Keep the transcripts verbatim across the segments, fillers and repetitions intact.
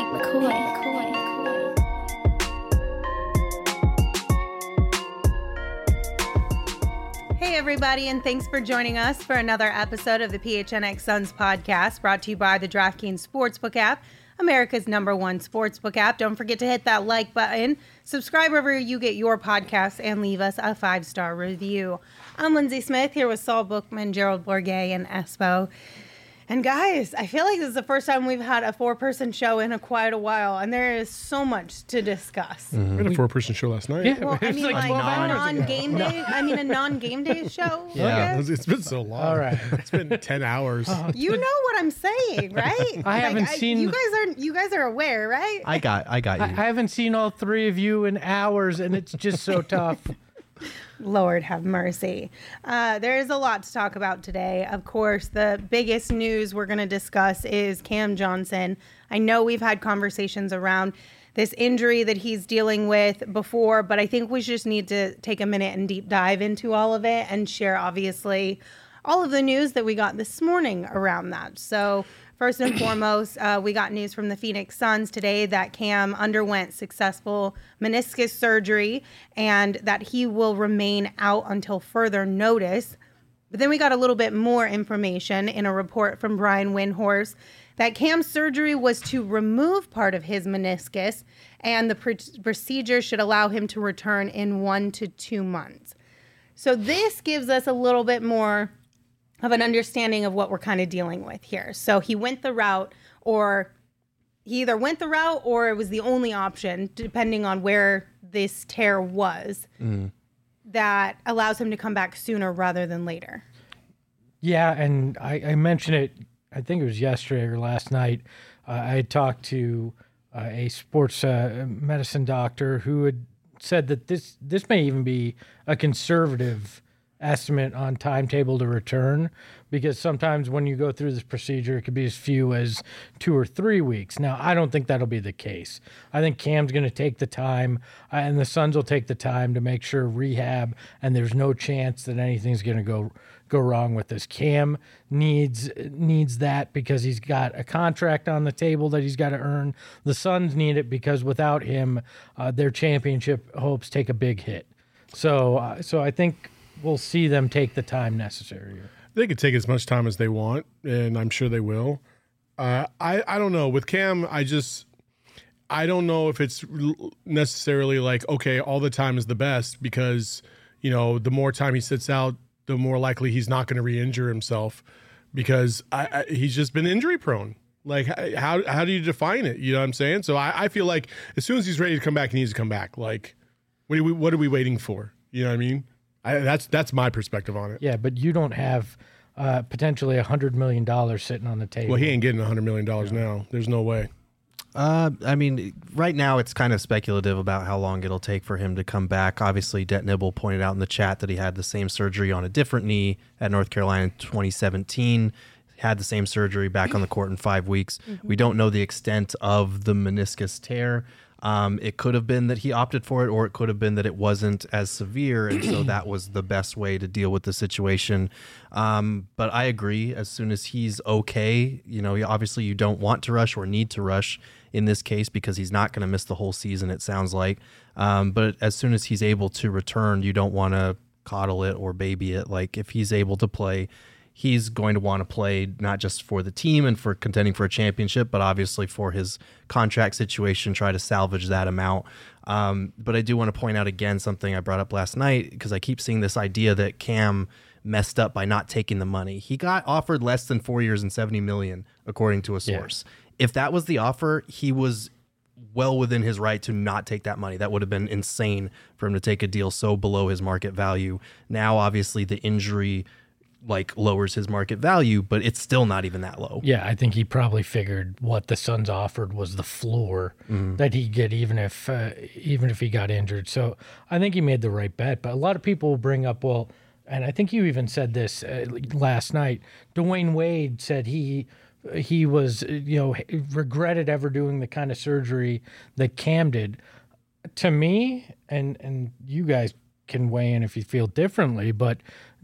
McCoy. McCoy. Hey everybody, and thanks for joining us for another episode of the P H N X Suns podcast, brought to you by the DraftKings Sportsbook app, America's number one sportsbook app. Don't forget to hit that like button, subscribe wherever you get your podcasts, and leave us a five-star review. I'm Lindsay Smith, here with Saul Bookman, Gerald Bourguet, and Espo. And guys, I feel like this is the first time we've had a four-person show in a quite a while, and there is so much to discuss. Mm-hmm. We had a four-person show last night. Yeah, Well, I mean, like, like a non-game day. I mean, a non-game day show. Yeah, Okay? it's been so long. All right. It's been ten hours. You know what I'm saying, right? I haven't seen- You guys are. You guys are aware, right? I got, I got you. I, I haven't seen all three of you in hours, and it's just so tough. Lord have mercy. Uh, there is a lot to talk about today. Of course, the biggest news we're going to discuss is Cam Johnson. I know we've had conversations around this injury that he's dealing with before, but I think we just need to take a minute and deep dive into all of it and share, obviously, all of the news that we got this morning around that. So first and foremost, uh, we got news from the Phoenix Suns today that Cam underwent successful meniscus surgery and that he will remain out until further notice. But then we got a little bit more information in a report from Brian Windhorst that Cam's surgery was to remove part of his meniscus, and the pr- procedure should allow him to return in one to two months. So this gives us a little bit more of an understanding of what we're kind of dealing with here. So he went the route, or he either went the route or it was the only option, depending on where this tear was, mm. that allows him to come back sooner rather than later. Yeah, and I, I mentioned it, I think it was yesterday or last night. Uh, I had talked to uh, a sports uh, medicine doctor who had said that this, this may even be a conservative estimate on timetable to return, because sometimes when you go through this procedure, it could be as few as two or three weeks. Now, I don't think that'll be the case. I think Cam's going to take the time, uh, and the Suns will take the time to make sure rehab, and there's no chance that anything's going to go go wrong with this. Cam needs needs that because he's got a contract on the table that he's got to earn. The Suns need it because without him, uh, their championship hopes take a big hit. So, uh, so I think we'll see them take the time necessary. They could take as much time as they want, and I'm sure they will. Uh, I, I don't know. With Cam, I just I don't know if it's necessarily like, okay, all the time is the best, because, you know, the more time he sits out, the more likely he's not going to re-injure himself, because I, I, he's just been injury prone. Like, how how do you define it? You know what I'm saying? So I, I feel like as soon as he's ready to come back, he needs to come back. Like, what are we, what are we waiting for? You know what I mean? I, that's that's my perspective on it. Yeah, but you don't have uh, potentially one hundred million dollars sitting on the table. Well, he ain't getting one hundred million dollars no. now. There's no way. Uh, I mean, right now it's kind of speculative about how long it'll take for him to come back. Obviously, Det Nibble pointed out in the chat that he had the same surgery on a different knee at North Carolina in twenty seventeen. Had the same surgery, back on the court in five weeks. Mm-hmm. We don't know the extent of the meniscus tear. Um, it could have been that he opted for it, or it could have been that it wasn't as severe, and so that was the best way to deal with the situation. Um, but I agree, as soon as he's okay, you know, obviously you don't want to rush or need to rush in this case, because he's not going to miss the whole season, it sounds like. Um, but as soon as he's able to return, you don't want to coddle it or baby it. Like, if he's able to play, he's going to want to play not just for the team and for contending for a championship, but obviously for his contract situation, try to salvage that amount. Um, but I do want to point out again something I brought up last night, because I keep seeing this idea that Cam messed up by not taking the money. He got offered less than four years and seventy million dollars, according to a source. Yeah. If that was the offer, he was well within his right to not take that money. That would have been insane for him to take a deal so below his market value. Now, obviously, the injury like lowers his market value, but it's still not even that low. Yeah, I think he probably figured what the Suns offered was the floor mm-hmm. that he'd get, even if uh, even if he got injured. So I think he made the right bet. But a lot of people will bring up, well, and I think you even said this uh, last night, Dwayne Wade said he he was, you know, regretted ever doing the kind of surgery that Cam did. To me, and and you guys can weigh in if you feel differently, but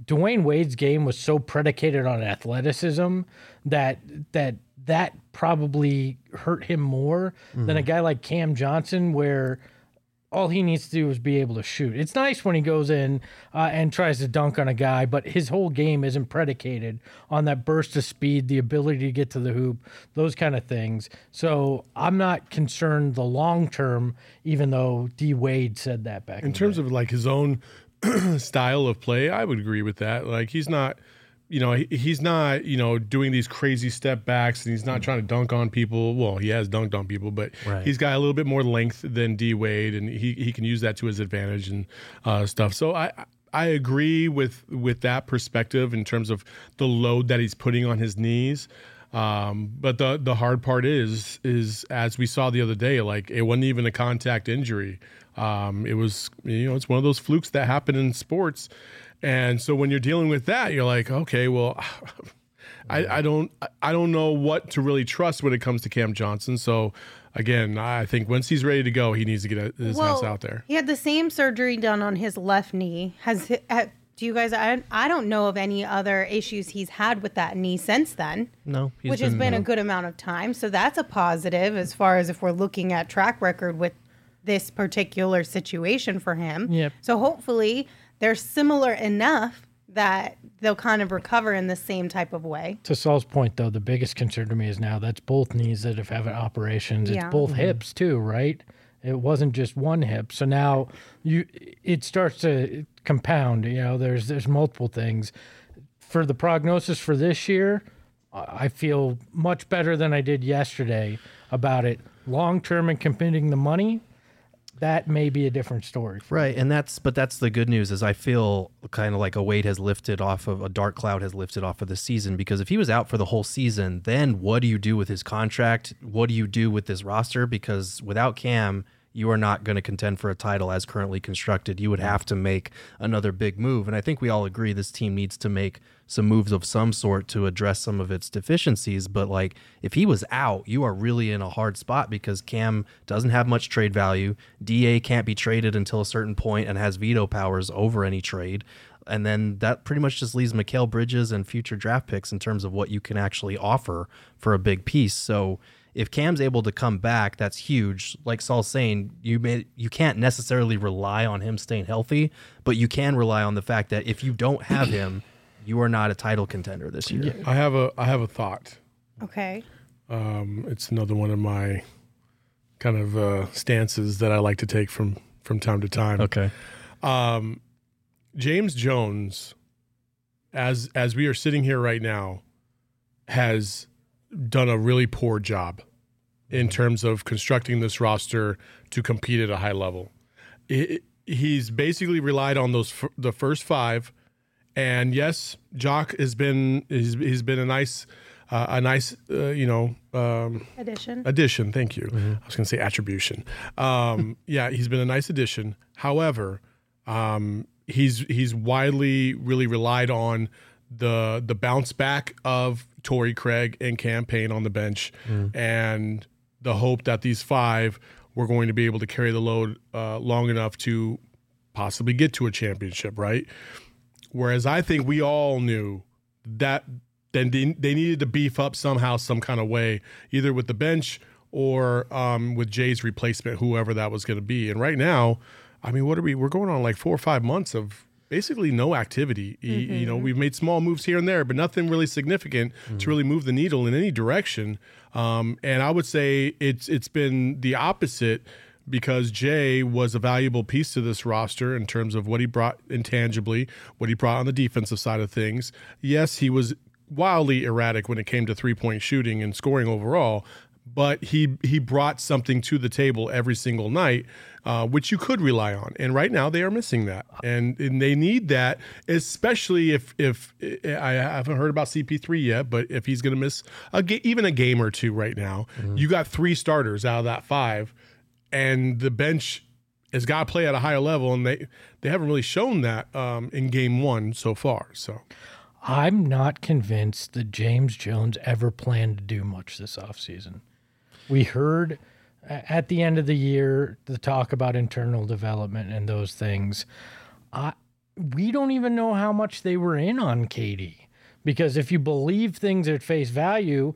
Dwayne Wade's game was so predicated on athleticism that that that probably hurt him more mm-hmm. than a guy like Cam Johnson, where all he needs to do is be able to shoot. It's nice when he goes in uh, and tries to dunk on a guy, but his whole game isn't predicated on that burst of speed, the ability to get to the hoop, those kind of things. So I'm not concerned the long term, even though D Wade said that back in, in terms day. of like his own style of play. I would agree with that. Like he's not, you know, he, he's not, you know, doing these crazy step backs, and he's not trying to dunk on people. Well, he has dunked on people, but right. he's got a little bit more length than D Wade, and he he can use that to his advantage and uh, stuff. So I I agree with with that perspective in terms of the load that he's putting on his knees. Um, but the the hard part is is as we saw the other day, like it wasn't even a contact injury. Um, it was, you know, it's one of those flukes that happen in sports. And so when you're dealing with that, you're like, okay, well, I, I don't I don't know what to really trust when it comes to Cam Johnson. So again, I think once he's ready to go, he needs to get his well, ass out there. He had the same surgery done on his left knee. Has do you guys? I I don't know of any other issues he's had with that knee since then. No, which has been no. a good amount of time. So that's a positive as far as if we're looking at track record with this particular situation for him. Yep. So hopefully they're similar enough that they'll kind of recover in the same type of way. To Saul's point, though, the biggest concern to me is now that's both knees that have had operations. It's yeah. both mm-hmm. hips too, right? It wasn't just one hip. So now you it starts to compound. You know, there's there's multiple things. For the prognosis for this year, I feel much better than I did yesterday about it. Long term and committing the money, that may be a different story. Right, and that's but that's the good news is I feel kind of like a weight has lifted off of a dark cloud has lifted off of the season, because if he was out for the whole season, then what do you do with his contract? What do you do with this roster? Because without Cam, you are not going to contend for a title as currently constructed. You would have to make another big move. And I think we all agree this team needs to make some moves of some sort to address some of its deficiencies. But like if he was out, you are really in a hard spot because Cam doesn't have much trade value. D A can't be traded until a certain point and has veto powers over any trade. And then that pretty much just leaves Mikal Bridges and future draft picks in terms of what you can actually offer for a big piece. So if Cam's able to come back, that's huge. Like Saul's saying, you may, you can't necessarily rely on him staying healthy, but you can rely on the fact that if you don't have him, you are not a title contender this year. I have a I have a thought. Okay. Um, it's another one of my kind of uh, stances that I like to take from from time to time. Okay. Um, James Jones, as as we are sitting here right now, has done a really poor job in terms of constructing this roster to compete at a high level. It, he's basically relied on those f- the first five, and yes, Jock has been he's, he's been a nice uh, a nice uh, you know um, addition. Addition, thank you. Mm-hmm. I was going to say attribution. Um, yeah, he's been a nice addition. However, um, he's he's widely really relied on the the bounce back of Torrey Craig and Cam Payne on the bench, mm. and the hope that these five were going to be able to carry the load uh, long enough to possibly get to a championship, right? Whereas I think we all knew that then they, they needed to beef up somehow, some kind of way, either with the bench or um, with Jay's replacement, whoever that was going to be. And right now, I mean, what are we? We're going on like four or five months of basically no activity. Mm-hmm. You know, we've made small moves here and there, but nothing really significant mm-hmm. to really move the needle in any direction. Um, and I would say it's it's been the opposite, because Jay was a valuable piece to this roster in terms of what he brought intangibly, what he brought on the defensive side of things. Yes, he was wildly erratic when it came to three-point shooting and scoring overall, but he he brought something to the table every single night, uh, which you could rely on. And right now they are missing that, and, and they need that, especially if if I haven't heard about C P three yet, but if he's going to miss a ga- even a game or two right now, mm-hmm. you got three starters out of that five, and the bench has got to play at a higher level, and they they haven't really shown that um, in game one so far. So. I'm not convinced that James Jones ever planned to do much this offseason. We heard at the end of the year the talk about internal development and those things. I we don't even know how much they were in on K D. Because if you believe things at face value,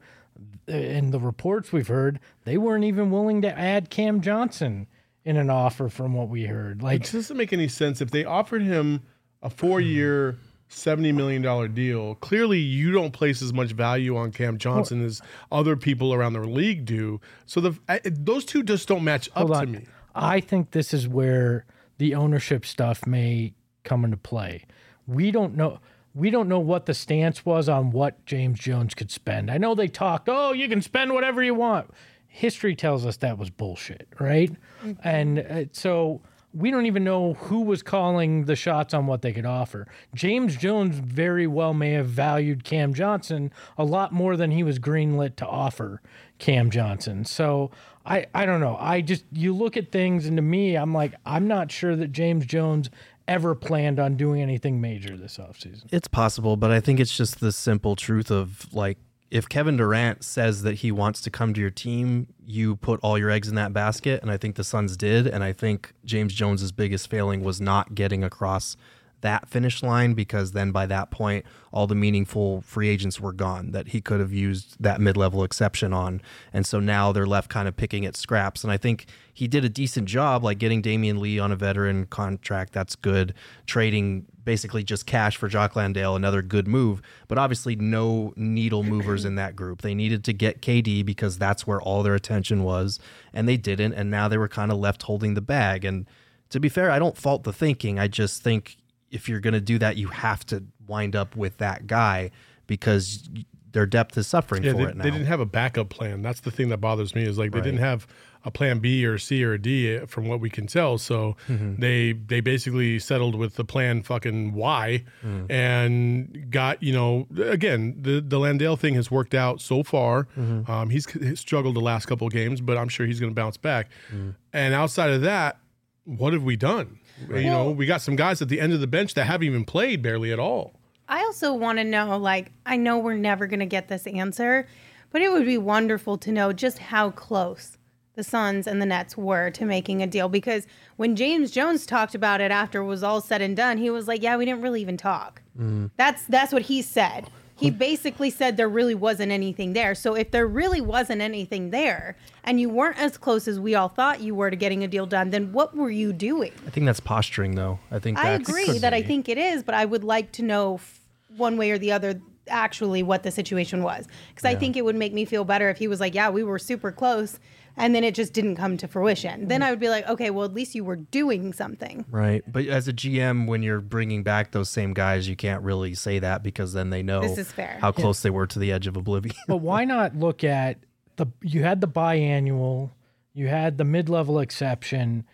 in the reports we've heard, they weren't even willing to add Cam Johnson in an offer from what we heard. Like, it doesn't make any sense. If they offered him a four-year, seventy million dollars deal, clearly you don't place as much value on Cam Johnson as other people around the league do. So the I, those two just don't match up to me. I think this is where the ownership stuff may come into play. We don't know. We don't know what the stance was on what James Jones could spend. I know they talked, oh, you can spend whatever you want. History tells us that was bullshit, right? Mm-hmm. And uh, so we don't even know who was calling the shots on what they could offer. James Jones very well may have valued Cam Johnson a lot more than he was greenlit to offer Cam Johnson. So I, I don't know. I just, you look at things, and to me, I'm like, I'm not sure that James Jones ever planned on doing anything major this offseason. It's possible, but I think it's just the simple truth of, like, if Kevin Durant says that he wants to come to your team, you put all your eggs in that basket, and I think the Suns did, and I think James Jones's biggest failing was not getting across that finish line, because then by that point, all the meaningful free agents were gone that he could have used that mid-level exception on. And so now they're left kind of picking at scraps. And I think he did a decent job, like getting Damian Lee on a veteran contract. That's good. Trading basically just cash for Jock Landale, another good move. But obviously no needle movers in that group. They needed to get K D because that's where all their attention was, and they didn't. And now they were kind of left holding the bag. And to be fair, I don't fault the thinking. I just think if you're going to do that, you have to wind up with that guy because their depth is suffering yeah, for they, it now. They didn't have a backup plan. That's the thing that bothers me is like they Right. didn't have a plan B or C or D from what we can tell. So mm-hmm. they they basically settled with the plan fucking Y mm. and got, you know, again, the, the Landale thing has worked out so far. Mm-hmm. Um, he's, he's struggled the last couple of games, but I'm sure he's going to bounce back. Mm. And outside of that, what have we done? Right. You know, we got some guys at the end of the bench that haven't even played barely at all. I also want to know, like, I know we're never going to get this answer, but it would be wonderful to know just how close the Suns and the Nets were to making a deal. Because when James Jones talked about it after it was all said and done, he was like, yeah, we didn't really even talk. Mm. That's that's what he said. He basically said there really wasn't anything there. So if there really wasn't anything there and you weren't as close as we all thought you were to getting a deal done, then what were you doing? I think that's posturing, though. I think I that's, agree that be. I think it is, but I would like to know f- one way or the other actually what the situation was. Because yeah. I think it would make me feel better if he was like, yeah, we were super close, and then it just didn't come to fruition. Then I would be like, okay, well, at least you were doing something. Right. But as a G M, when you're bringing back those same guys, you can't really say that because then they know this is fair. how close yeah. they were to the edge of oblivion. But why not look at the, you had the biannual, you had the mid-level exception.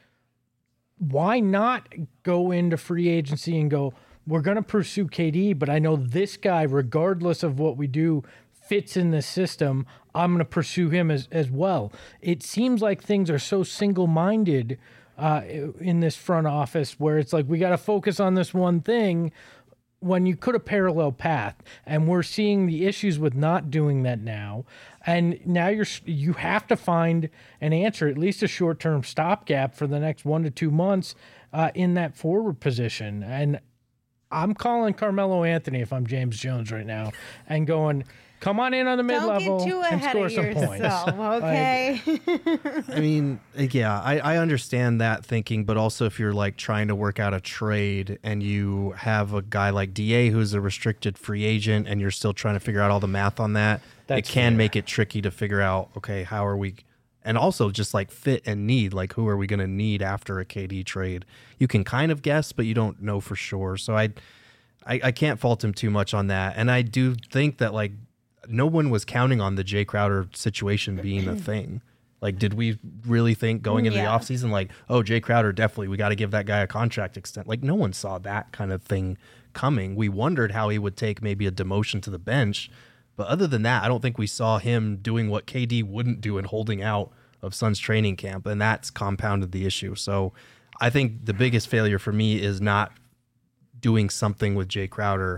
Why not go into free agency and go, we're going to pursue K D, but I know this guy, regardless of what we do, fits in this system. I'm going to pursue him as, as well. It seems like things are so single-minded uh, in this front office where it's like, we got to focus on this one thing when you could have parallel path. And we're seeing the issues with not doing that now. And now you're, you have to find an answer, at least a short-term stopgap for the next one to two months uh, in that forward position. And I'm calling Carmelo Anthony if I'm James Jones right now and going, come on in on the mid-level and score some yourself, points. Okay. Like, I mean, yeah, I, I understand that thinking, but also if you're like trying to work out a trade and you have a guy like D A who's a restricted free agent and you're still trying to figure out all the math on that, That's it can fair. make it tricky to figure out, okay, how are we... And also just like fit and need, like who are we going to need after a K D trade? You can kind of guess, but you don't know for sure. So I, I, I can't fault him too much on that. And I do think that like no one was counting on the Jay Crowder situation being a thing. Like, did we really think going into yeah. the offseason, like, oh, Jay Crowder, definitely, we got to give that guy a contract extent. Like, no one saw that kind of thing coming. We wondered how he would take maybe a demotion to the bench. But other than that, I don't think we saw him doing what K D wouldn't do and holding out of Suns training camp, and that's compounded the issue. So I think the biggest failure for me is not doing something with Jay Crowder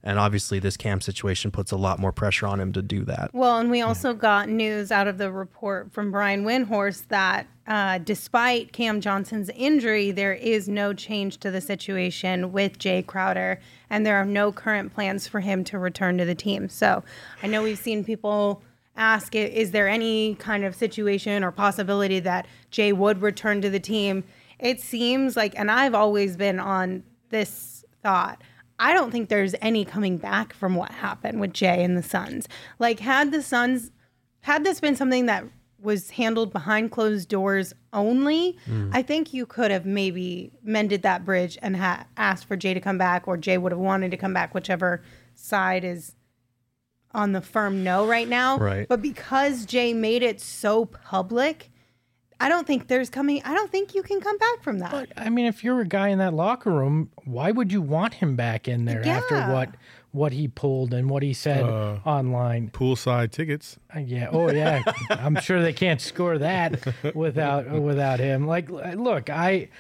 And obviously this Cam situation puts a lot more pressure on him to do that. Well, and we also got news out of the report from Brian Windhorst that uh, despite Cam Johnson's injury, there is no change to the situation with Jay Crowder, and there are no current plans for him to return to the team. So I know we've seen people ask, is there any kind of situation or possibility that Jay would return to the team? It seems like, and I've always been on this thought, I don't think there's any coming back from what happened with Jay and the Suns. Like, had the Suns, had this been something that was handled behind closed doors only, mm. I think you could have maybe mended that bridge and ha- asked for Jay to come back, or Jay would have wanted to come back, whichever side is on the firm no right now. Right. But because Jay made it so public, I don't think there's coming, I don't think you can come back from that. But, I mean, if you're a guy in that locker room, why would you want him back in there Yeah. after what what he pulled and what he said Uh, online? Poolside tickets. Uh, yeah. Oh, yeah. I'm sure they can't score that without without him. Like, look, I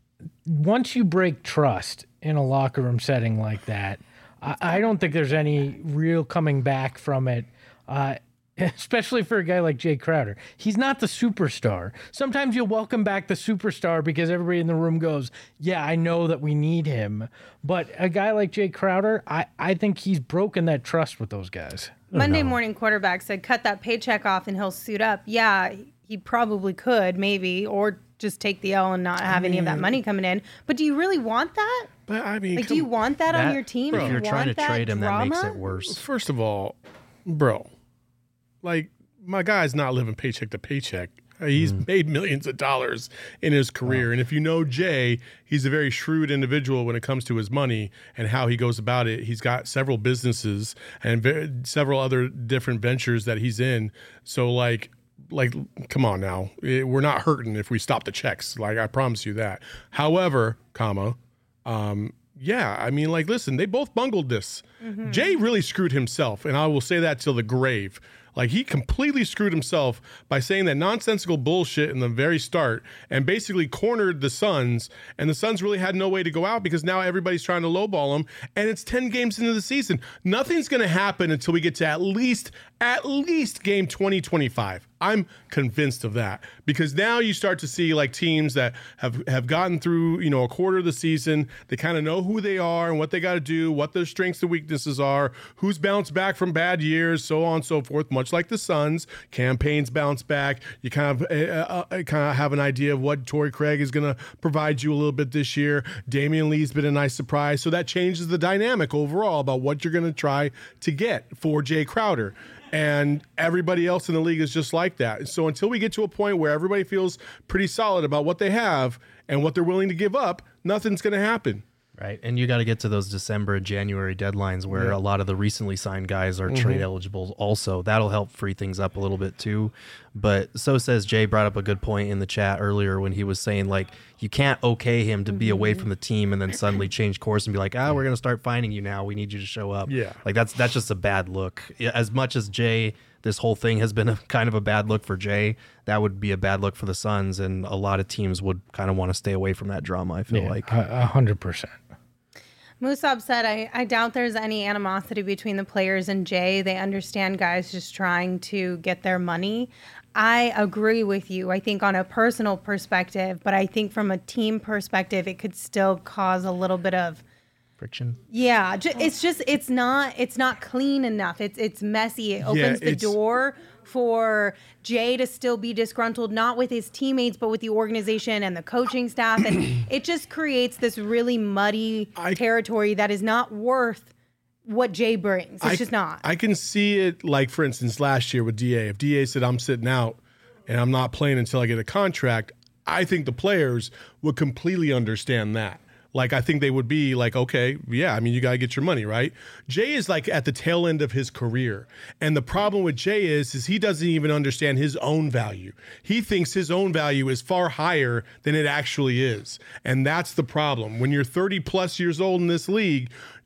once you break trust in a locker room setting like that, I, I don't think there's any real coming back from it. Uh, Especially for a guy like Jay Crowder. He's not the superstar. Sometimes you'll welcome back the superstar because everybody in the room goes, yeah, I know that we need him. But a guy like Jay Crowder, I, I think he's broken that trust with those guys. Monday Morning Quarterback said, cut that paycheck off and he'll suit up. Yeah, he probably could, maybe, or just take the L and not have any of that money coming in. But do you really want that? But I mean, Like, do come- you want that, on That- your team? If Do you you're trying to want that trade him, drama? that makes it worse. First of all, bro, like, my guy's not living paycheck to paycheck. Uh, He's Mm. made millions of dollars in his career. And if you know Jay, he's a very shrewd individual when it comes to his money and how he goes about it. He's got several businesses and ve- several other different ventures that he's in. So, like, like, come on now. Eh, We're not hurting if we stop the checks. Like, I promise you that. However, comma, um, yeah, I mean, like, listen, they both bungled this. Jay really screwed himself, and I will say that till the grave. Like, he completely screwed himself by saying that nonsensical bullshit in the very start and basically cornered the Suns, and the Suns really had no way to go out because now everybody's trying to lowball them, and it's ten games into the season. Nothing's going to happen until we get to at least, at least game twenty twenty-five. I'm convinced of that because now you start to see like teams that have, have gotten through, you know, a quarter of the season. They kind of know who they are and what they got to do, what their strengths and weaknesses are, who's bounced back from bad years, so on and so forth. Much like the Suns, campaigns bounce back. You kind of uh, uh, kind of have an idea of what Torrey Craig is going to provide you a little bit this year. Damian Lee's been a nice surprise, so that changes the dynamic overall about what you're going to try to get for Jay Crowder. And everybody else in the league is just like that. So until we get to a point where everybody feels pretty solid about what they have and what they're willing to give up, nothing's going to happen. Right. And you got to get to those December and January deadlines where Yeah. a lot of the recently signed guys are Mhm. trade eligible also. That'll help free things up a little bit too. But so says Jay brought up a good point in the chat earlier when he was saying, like, you can't okay him to be away from the team and then suddenly change course and be like, ah, we're going to start finding you now. We need you to show up. Yeah. Like, that's that's just a bad look. Yeah, as much as Jay, this whole thing has been a kind of a bad look for Jay, that would be a bad look for the Suns. And a lot of teams would kind of want to stay away from that drama, I feel Yeah, like. a a hundred percent. Musab said, I, I doubt there's any animosity between the players and Jay. They understand guys just trying to get their money. I agree with you, I think, on a personal perspective, but I think from a team perspective, it could still cause a little bit of Friction. yeah. Ju- it's just it's not it's not clean enough. It's it's messy. It opens the it's- door for Jay to still be disgruntled, not with his teammates, but with the organization and the coaching staff, and it just creates this really muddy I- territory that is not worth what Jay brings. It's I, just not. I can see it, like, for instance, last year with D A. If D A said, I'm sitting out and I'm not playing until I get a contract, I think the players would completely understand that. Like, I think they would be like, okay, yeah, I mean, you got to get your money, right? Jay is like at the tail end of his career. And the problem with Jay is, is he doesn't even understand his own value. He thinks his own value is far higher than it actually is. And that's the problem. When you're thirty plus years old in this league,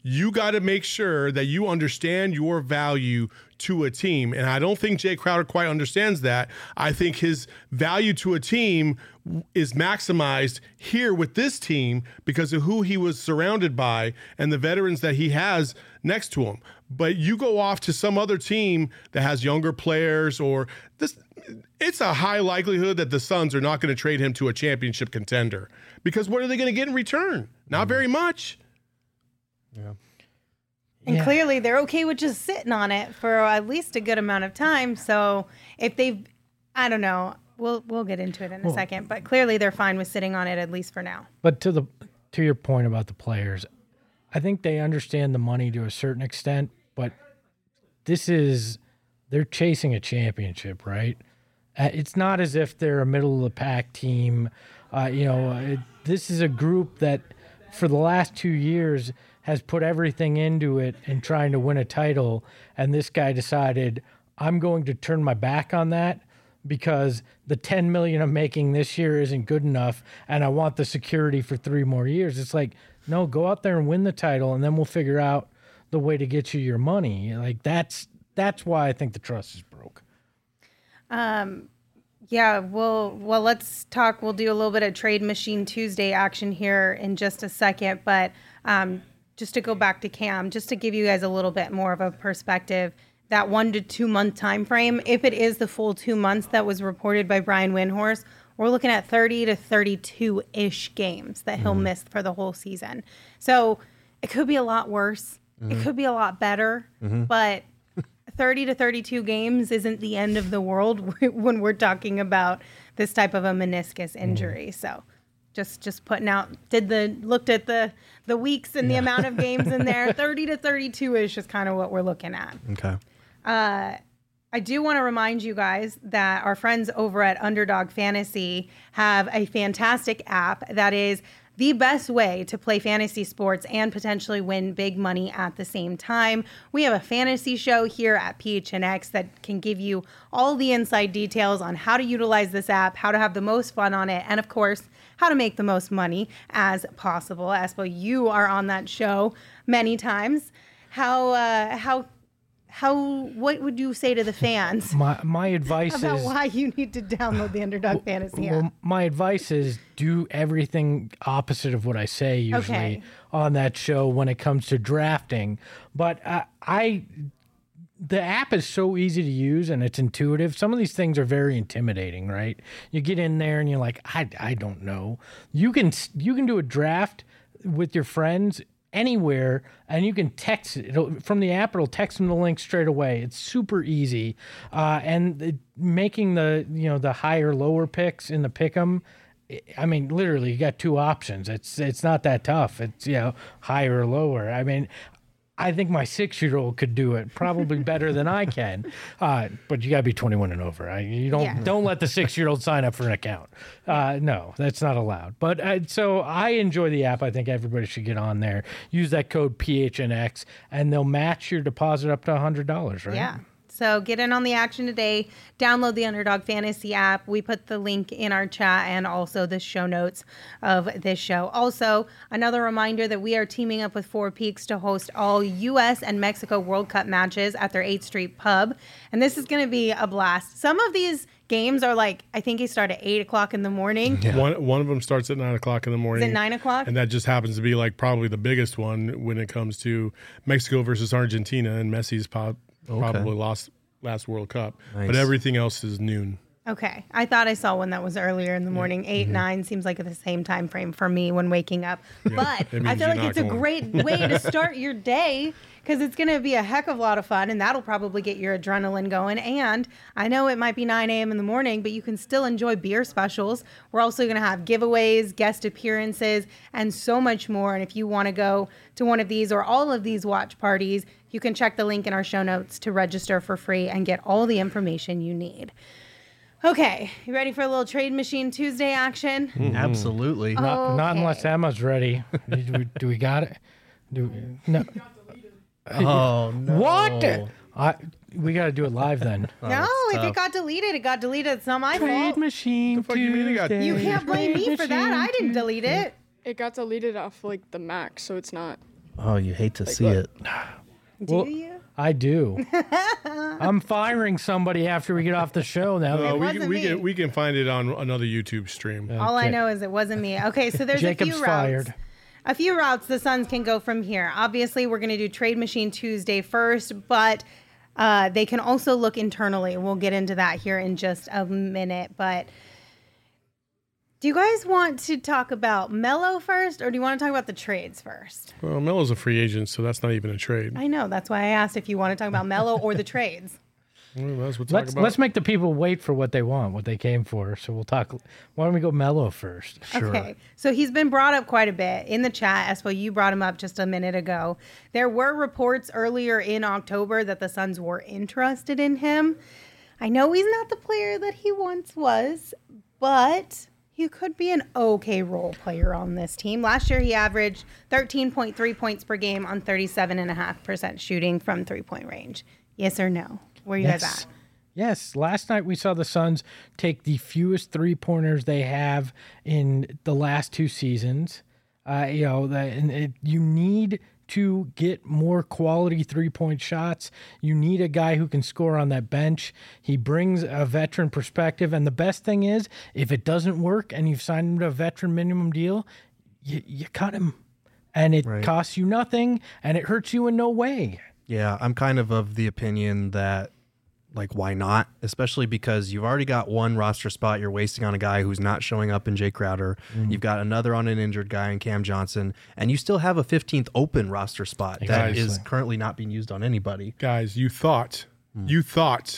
you got to make sure that you understand your value to a team. And I don't think Jay Crowder quite understands that. I think his value to a team is maximized here with this team because of who he was surrounded by and the veterans that he has next to him. But you go off to some other team that has younger players or this, it's a high likelihood that the Suns are not going to trade him to a championship contender because what are they going to get in return? Not very much. Yeah. And Yeah. clearly they're okay with just sitting on it for at least a good amount of time. So if they've, I don't know, we'll we'll get into it in a second, but clearly they're fine with sitting on it at least for now. But to the to your point about the players, I think they understand the money to a certain extent, but this is they're chasing a championship, right? Uh, it's not as if they're a middle of the pack team. Uh, you know, it, this is a group that for the last two years has put everything into it and trying to win a title. And this guy decided, I'm going to turn my back on that because the ten million I'm making this year isn't good enough. And I want the security for three more years. It's like, no, go out there and win the title. And then we'll figure out the way to get you your money. Like that's, that's why I think the trust is broke. Um, yeah, well, well, let's talk. We'll do a little bit of Trade Machine Tuesday action here in just a second. But um, just to go back to Cam, just to give you guys a little bit more of a perspective, that one to two month time frame, if it is the full two months that was reported by Brian Windhorst, we're looking at thirty to thirty-two-ish games that he'll miss for the whole season. So it could be a lot worse. It could be a lot better, but thirty to thirty-two games isn't the end of the world when we're talking about this type of a meniscus injury. So just just putting out, did the looked at the the weeks and the amount of games in there. thirty to thirty-two ish is kind of what we're looking at. Okay. Uh, I do want to remind you guys that our friends over at Underdog Fantasy have a fantastic app that is the best way to play fantasy sports and potentially win big money at the same time. We have a fantasy show here at P H N X that can give you all the inside details on how to utilize this app, how to have the most fun on it, and of course, how to make the most money as possible. Espo, you are on that show many times. How, uh, how, how, what would you say to the fans My my advice about is why you need to download the Underdog Fantasy app? well, my advice is do everything opposite of what I say usually Okay. on that show when it comes to drafting. But uh, I, the app is so easy to use and it's intuitive. Some of these things are very intimidating, right? You get in there and you're like, I, I don't know. You can you can do a draft with your friends anywhere, and you can text it it'll, from the app. It'll text them the link straight away. It's super easy, uh, and it, making the you know the higher lower picks in the pick'em. I mean, literally, you got two options. It's it's not that tough. It's you know higher or lower. I mean, I think my six-year-old could do it probably better than I can, uh, but you got to be twenty-one and over. I, you don't Yeah. don't let the six-year-old sign up for an account. Uh, no, that's not allowed. But uh, so I enjoy the app. I think everybody should get on there. Use that code P H N X, and they'll match your deposit up to one hundred dollars, right? Yeah. So get in on the action today. Download the Underdog Fantasy app. We put the link in our chat and also the show notes of this show. Also, another reminder that we are teaming up with Four Peaks to host all U S and Mexico World Cup matches at their eighth Street pub. And this is going to be a blast. Some of these games are like, I think they start at eight o'clock in the morning. One one of them starts at nine o'clock in the morning. Is it nine o'clock? And that just happens to be like probably the biggest one when it comes to Mexico versus Argentina, and Messi's po- probably lost last World Cup. Nice. But everything else is noon. Okay. I thought I saw one that was earlier in the morning. Eight, nine seems like the same time frame for me when waking up. But it I means feel you're like not it's a going. great way to start your day because it's going to be a heck of a lot of fun and that'll probably get your adrenaline going. And I know it might be nine a.m. in the morning, but you can still enjoy beer specials. We're also going to have giveaways, guest appearances, and so much more. And if you want to go to one of these or all of these watch parties, you can check the link in our show notes to register for free and get all the information you need. Okay, you ready for a little Trade Machine Tuesday action? Absolutely. Not, not unless Okay. Emma's ready. do, we, do we got it? Do no? Oh no. What? I, we got to do it live then. No, if it tough. got deleted, it got deleted. It's not my Trade fault. machine. fuck you mean it got- Tuesday. You can't blame me for that. I didn't delete it. It got deleted off like the Mac, so it's not Oh, you hate to see it. Do Well, you? I do. I'm firing somebody after we get off the show now. Uh, we, wasn't can, we, me. can, we can find it on another YouTube stream. All I Okay. know is it wasn't me. Okay, so there's Jacob's a few routes. fired. A few routes the Suns can go from here. Obviously, we're going to do Trade Machine Tuesday first, but uh, they can also look internally. We'll get into that here in just a minute. But do you guys want to talk about Melo first, or do you want to talk about the trades first? Well, Melo's a free agent, so that's not even a trade. I know. That's why I asked if you want to talk about Melo or the trades. Well, that's what we'll talk Let's about. let's make the people wait for what they want, what they came for. So we'll talk. Why don't we go Melo first? Okay, so he's been brought up quite a bit in the chat. Espo, you brought him up just a minute ago. There were reports earlier in October that the Suns were interested in him. I know he's not the player that he once was, but he could be an okay role player on this team. Last year, he averaged thirteen point three points per game on thirty-seven point five percent shooting from three-point range. Yes or no? Where you guys Yes. at? Yes. Last night we saw the Suns take the fewest three pointers they have in the last two seasons. Uh, you know, that and it, you need to get more quality three point shots. You need a guy who can score on that bench. He brings a veteran perspective. And the best thing is, if it doesn't work and you've signed him to a veteran minimum deal, you, you cut him. And it Right. costs you nothing and it hurts you in no way. Yeah, I'm kind of of the opinion that, like, why not? Especially because you've already got one roster spot you're wasting on a guy who's not showing up in Jay Crowder. You've got another on an injured guy in Cam Johnson. And you still have a fifteenth open roster spot that Exactly. is currently not being used on anybody. Guys, you thought, you thought,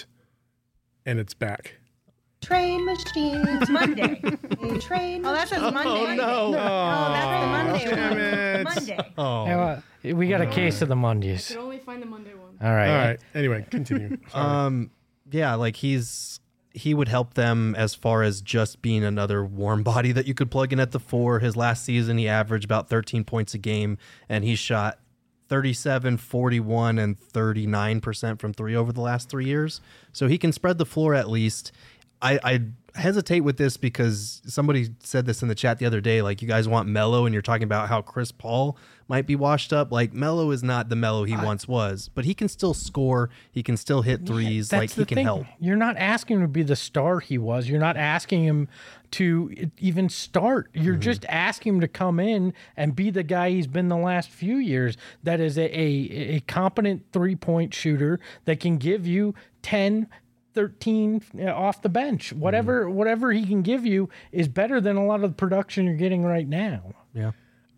and it's back. Trade Machine. It's Monday. Trade. Oh, that says Monday. no. Oh, that's the Monday Damn one. it. Monday. Oh. Hey, well, we got a case of the Mondays. Could only find the Monday one. All right. All right. Anyway, continue. Sorry. Um, yeah, like he's he would help them as far as just being another warm body that you could plug in at the four. His last season, he averaged about thirteen points a game, and he shot thirty-seven, forty-one, and thirty-nine percent from three over the last three years. So he can spread the floor at least. I, I hesitate with this because somebody said this in the chat the other day. Like, you guys want Melo, and you're talking about how Chris Paul might be washed up. Like, Melo is not the Melo he I, once was, but he can still score. He can still hit threes. Yeah, like, he can thing. help. You're not asking him to be the star he was. You're not asking him to even start. You're mm-hmm. just asking him to come in and be the guy he's been the last few years. That is a a, a competent three point shooter that can give you ten. thirteen off the bench. Whatever mm. whatever he can give you is better than a lot of the production you're getting right now. Yeah.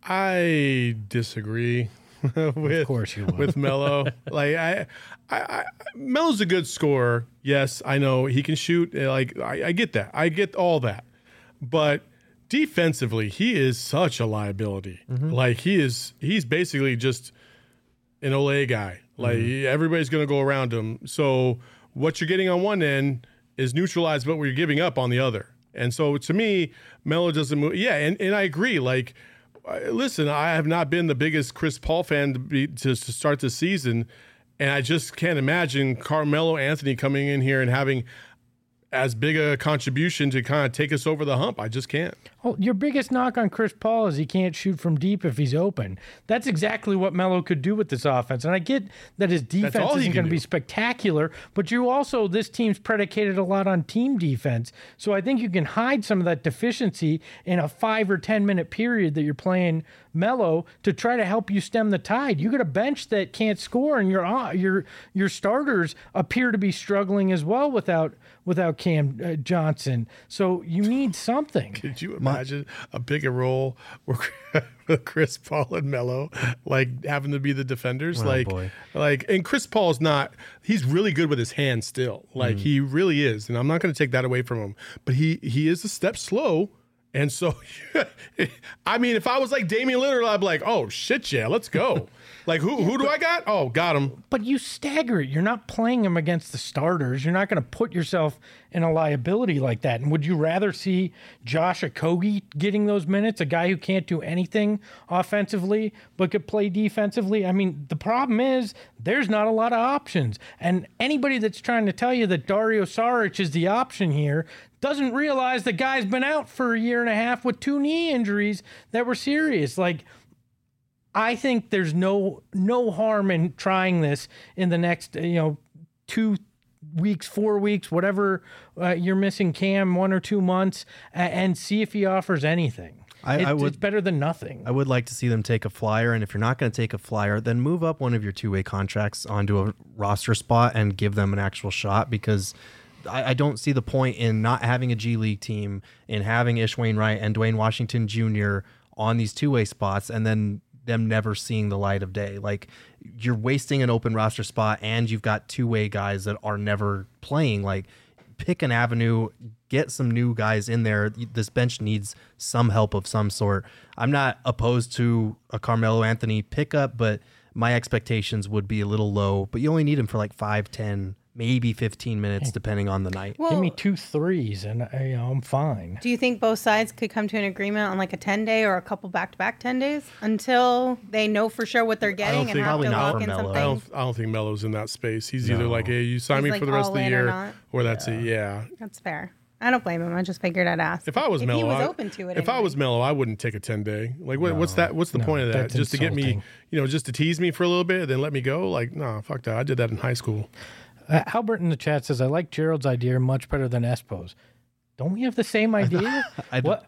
I disagree with of course you would. with Melo. Like I, I, I Melo's a good scorer. Yes, I know he can shoot. Like I, I get that. I get all that. But defensively, he is such a liability. Mm-hmm. Like he is he's basically just an Olay guy. Like mm-hmm. everybody's gonna go around him. So what you're getting on one end is neutralized what we're giving up on the other. And so to me, Melo doesn't move. Yeah, and, and I agree. Like, listen, I have not been the biggest Chris Paul fan to, be, to, to start the season. And I just can't imagine Carmelo Anthony coming in here and having as big a contribution to kind of take us over the hump. I just can't. Well, your biggest knock on Chris Paul is he can't shoot from deep if he's open. That's exactly what Melo could do with this offense. And I get that his defense isn't going to be spectacular, but you also, this team's predicated a lot on team defense. So I think you can hide some of that deficiency in a five or ten minute period that you're playing Melo to try to help you stem the tide. You got a bench that can't score, and your your your starters appear to be struggling as well without without Cam uh, Johnson. So you need something. Could you imagine a bigger role with Chris Paul and Melo, like having to be the defenders? Oh, like, boy. like, and Chris Paul's not. He's really good with his hands still. Like mm. he really is, and I'm not going to take that away from him. But he he is a step slow. And so, I mean, if I was like Damian Lillard, I'd be like, oh, shit, yeah, let's go. Like, who who do I got? Oh, got him. But you stagger it. You're not playing him against the starters. You're not going to put yourself in a liability like that. And would you rather see Josh Okogie getting those minutes, a guy who can't do anything offensively but could play defensively? I mean, the problem is there's not a lot of options. And anybody that's trying to tell you that Dario Saric is the option here doesn't realize the guy's been out for a year and a half with two knee injuries that were serious. Like, I think there's no no harm in trying this in the next, you know, two weeks, four weeks, whatever uh, you're missing Cam, one or two months, uh, and see if he offers anything. I, it, I would, it's better than nothing. I would like to see them take a flyer, and if you're not going to take a flyer, then move up one of your two-way contracts onto a roster spot and give them an actual shot, because I, I don't see the point in not having a G League team, in having Ish Wainwright and Dwayne Washington Junior on these two-way spots, and then them never seeing the light of day. Like, you're wasting an open roster spot, and you've got two-way guys that are never playing. Like, pick an avenue, get some new guys in there. This bench needs some help of some sort. I'm not opposed to a Carmelo Anthony pickup, but my expectations would be a little low. But you only need him for like five, ten, maybe fifteen minutes, depending on the night. Well, Give me two threes, and uh, you know, I'm fine. do you think both sides could come to an agreement on like a ten day or a couple back to back ten days until they know for sure what they're getting and think- have Probably to not lock for in Melo. something? I don't. I don't think Melo's in that space. He's either No. like, "Hey, you sign He's me like for the rest of all the in or year," not. or that's it. Yeah. That's fair. I don't blame him. I just figured I'd ask. If I was if Melo, he was I- open to it. If I anyway. was Melo, I wouldn't take a ten day. Like, what, what's that? What's the No, point of that? that's Just to get me, insulting. you know, just to tease me for a little bit, and then let me go? Like, no, fuck that. I did that in high school. Uh, Albert in the chat says, I like Gerald's idea much better than Espo's. Don't we have the same idea? I what?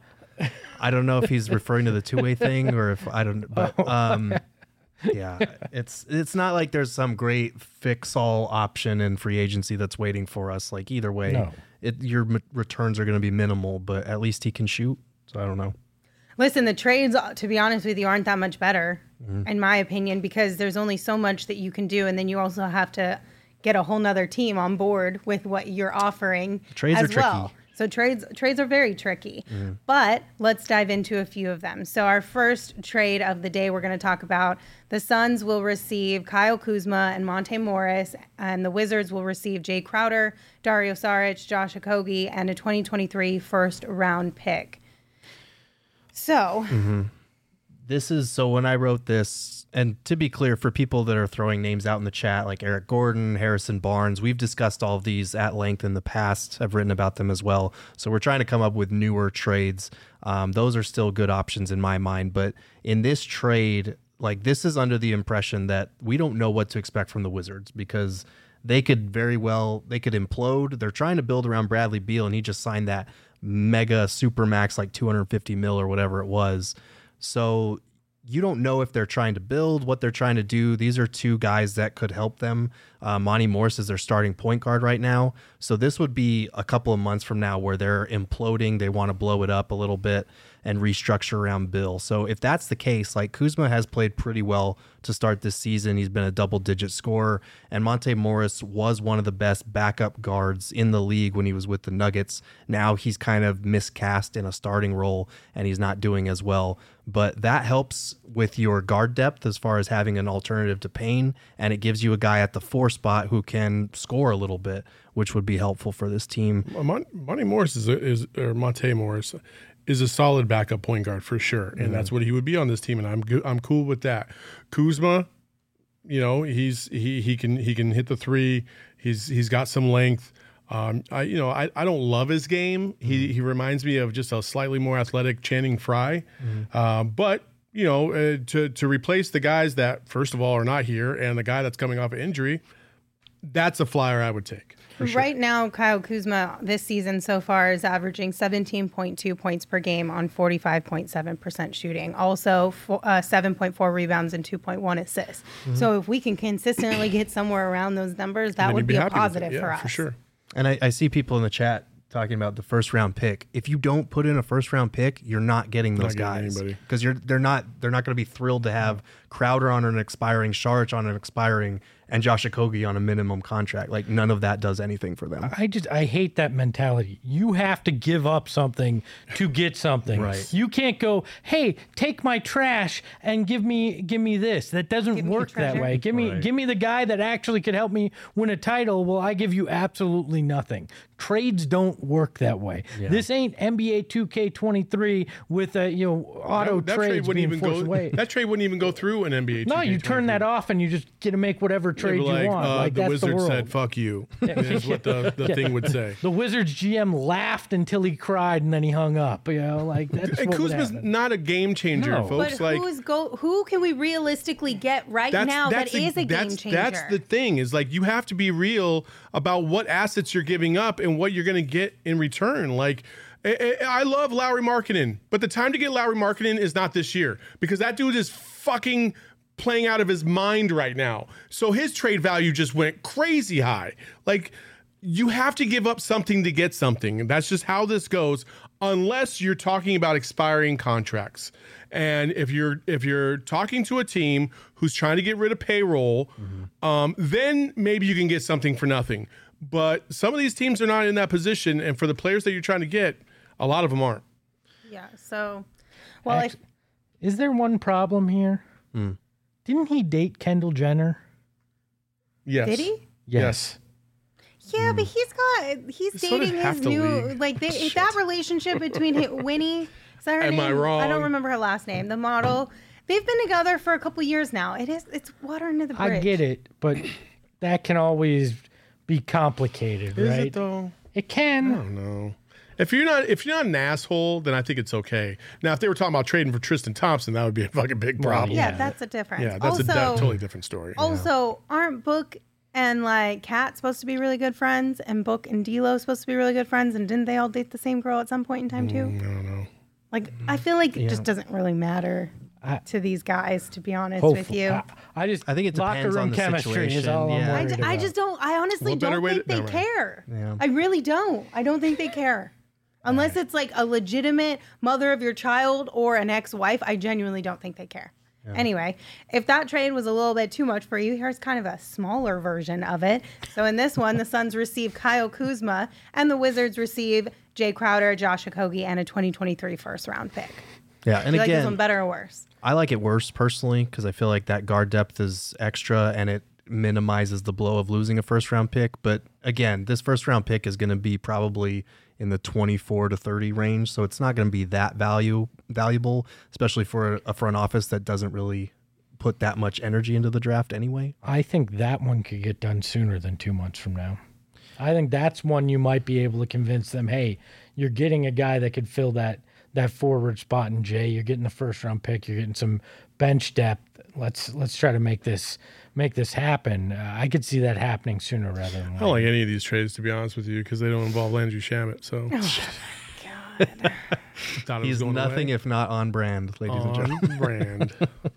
I don't know if he's referring to the two-way thing or if I don't, but um, yeah, it's it's not like there's some great fix-all option in free agency that's waiting for us. Like, either way, No. it, your m- returns are going to be minimal, but at least he can shoot. So I don't know. Listen, the trades, to be honest with you, aren't that much better, Mm-hmm. in my opinion, because there's only so much that you can do, and then you also have to get a whole nother team on board with what you're offering Trades as are well. tricky. So trades trades are very tricky. Mm-hmm. But let's dive into a few of them. So our first trade of the day we're going to talk about, the Suns will receive Kyle Kuzma and Monte Morris, and the Wizards will receive Jay Crowder, Dario Saric, Josh Okogie, and a twenty twenty-three first round pick. So This is so when I wrote this, and to be clear, for people that are throwing names out in the chat, like Eric Gordon, Harrison Barnes, we've discussed all of these at length in the past. I've written about them as well. So we're trying to come up with newer trades. Um, those are still good options in my mind. But in this trade, like, this is under the impression that we don't know what to expect from the Wizards, because they could very well, they could implode. They're trying to build around Bradley Beal, and he just signed that mega super max, like two hundred fifty mil or whatever it was. So you don't know if they're trying to build, what they're trying to do. These are two guys that could help them. Uh, Monty Morris is their starting point guard right now. So this would be a couple of months from now where they're imploding. They want to blow it up a little bit and restructure around Bill. So if that's the case, like, Kuzma has played pretty well to start this season. He's been a double-digit scorer, and Monte Morris was one of the best backup guards in the league when he was with the Nuggets. Now he's kind of miscast in a starting role, and he's not doing as well. But that helps with your guard depth as far as having an alternative to Payne, and it gives you a guy at the four spot who can score a little bit, which would be helpful for this team. Mon- Monty Morris is, a, is or Monte Morris is a solid backup point guard for sure, and Mm-hmm. that's what he would be on this team, and I'm go- I'm cool with that. Kuzma, you know, he's he he can he can hit the three. He's he's got some length. Um, I you know I, I don't love his game. He he reminds me of just a slightly more athletic Channing Frye, uh, but you know uh, to to replace the guys that first of all are not here and the guy that's coming off of injury, that's a flyer I would take. right now, Kyle Kuzma this season so far is averaging seventeen point two points per game on forty-five point seven percent shooting. Also, fo- uh, seven point four rebounds and two point one assists. So if we can consistently get somewhere around those numbers, that Then would you'd be, a happy with it. positive Yeah, for us. for sure. And I, I see people in the chat talking about the first round pick. If you don't put in a first round pick, you're not getting those Not getting guys, anybody. because you're they're not they're not going to be thrilled to have Crowder on an expiring, Saric on an expiring, and Josh Okogie on a minimum contract. Like, none of that does anything for them. I just I hate that mentality. You have to give up something to get something. Right. You can't go, hey, take my trash and give me give me this. That doesn't Give me work the that treasure. way. Give me Right. give me the guy that actually could help me win a title. Well, I give you absolutely nothing. Trades don't work that way. This ain't N B A two K twenty-three with a you know auto That, that trades trade wouldn't being even forced go. away. That trade wouldn't even go through an N B A. No, you turn that off. off and you just get to make whatever trade like, you want. uh, like the that's Wizard the world. said, "Fuck you," is what the, the thing would say. The Wizards G M laughed until he cried and then he hung up. You know, like that's And what would Kuzma's happen. not a game changer, No. folks. But like who's go? Who can we realistically get right that's now that's that the, is a that's, game changer? That's the thing is like you have to be real about what assets you're giving up and what you're going to get in return. Like. I, I I love Lowry Markkinen, but the time to get Lowry Markkinen is not this year because that dude is fucking playing out of his mind right now. So his trade value just went crazy high. Like you have to give up something to get something. And that's just how this goes unless you're talking about expiring contracts. And if you're if you're talking to a team who's trying to get rid of payroll, mm-hmm. um, then maybe you can get something for nothing. But some of these teams are not in that position. And for the players that you're trying to get, a lot of them aren't. Yeah. So, well, Act- is there one problem here? Mm. Didn't he date Kendall Jenner? Yes. did he? Yes. Yeah, but he's got he's sort of dating half his the new league. like they, that relationship between hi- Winnie. Is that her Am name? I wrong? I don't remember her last name. The model. They've been together for a couple years now. It is it's water under the bridge. I get it, but that can always be complicated, Is right? it though? It can. I don't know. If you're not if you're not an asshole, then I think it's okay. Now, if they were talking about trading for Tristan Thompson, that would be a fucking big Well, problem. Yeah, Yeah. that's a difference. Yeah, that's also, a de- totally different story. Also, aren't Book and like Kat supposed to be really good friends, and Book and D'Lo supposed to be really good friends, and didn't they all date the same girl at some point in time too? I don't know. Like, I feel like it just doesn't really matter I- to these guys, to be honest with Hopefully. you. I, I just I think it locker depends room on the chemistry is situation, all I'm yeah. I, worried d- I about. just don't. I honestly What better don't way think to- they never mind. care. Yeah. I really don't. I don't think they care. Unless it's like a legitimate mother of your child or an ex-wife, I genuinely don't think they care. Anyway, if that trade was a little bit too much for you, here's kind of a smaller version of it. So in this one, the Suns receive Kyle Kuzma, and the Wizards receive Jay Crowder, Josh Okogie, and a twenty twenty-three first round pick. Yeah, and Do you like this again, one better or worse? I like it worse personally because I feel like that guard depth is extra and it minimizes the blow of losing a first round pick. But again, this first round pick is going to be probably in the twenty-four to thirty range, so it's not going to be that value valuable, especially for a front office that doesn't really put that much energy into the draft anyway. I think that one could get done sooner than two months from now. I think that's one you might be able to convince them, hey, you're getting a guy that could fill that that forward spot in Jay. You're getting the first round pick. You're getting some bench depth. Let's let's try to make this make this happen. Uh, I could see that happening sooner rather than I later. don't like any of these trades, to be honest with you, because they don't involve Landry Shamet. So God. thought it was He's going nothing away. if not on brand, ladies and gentlemen. On brand.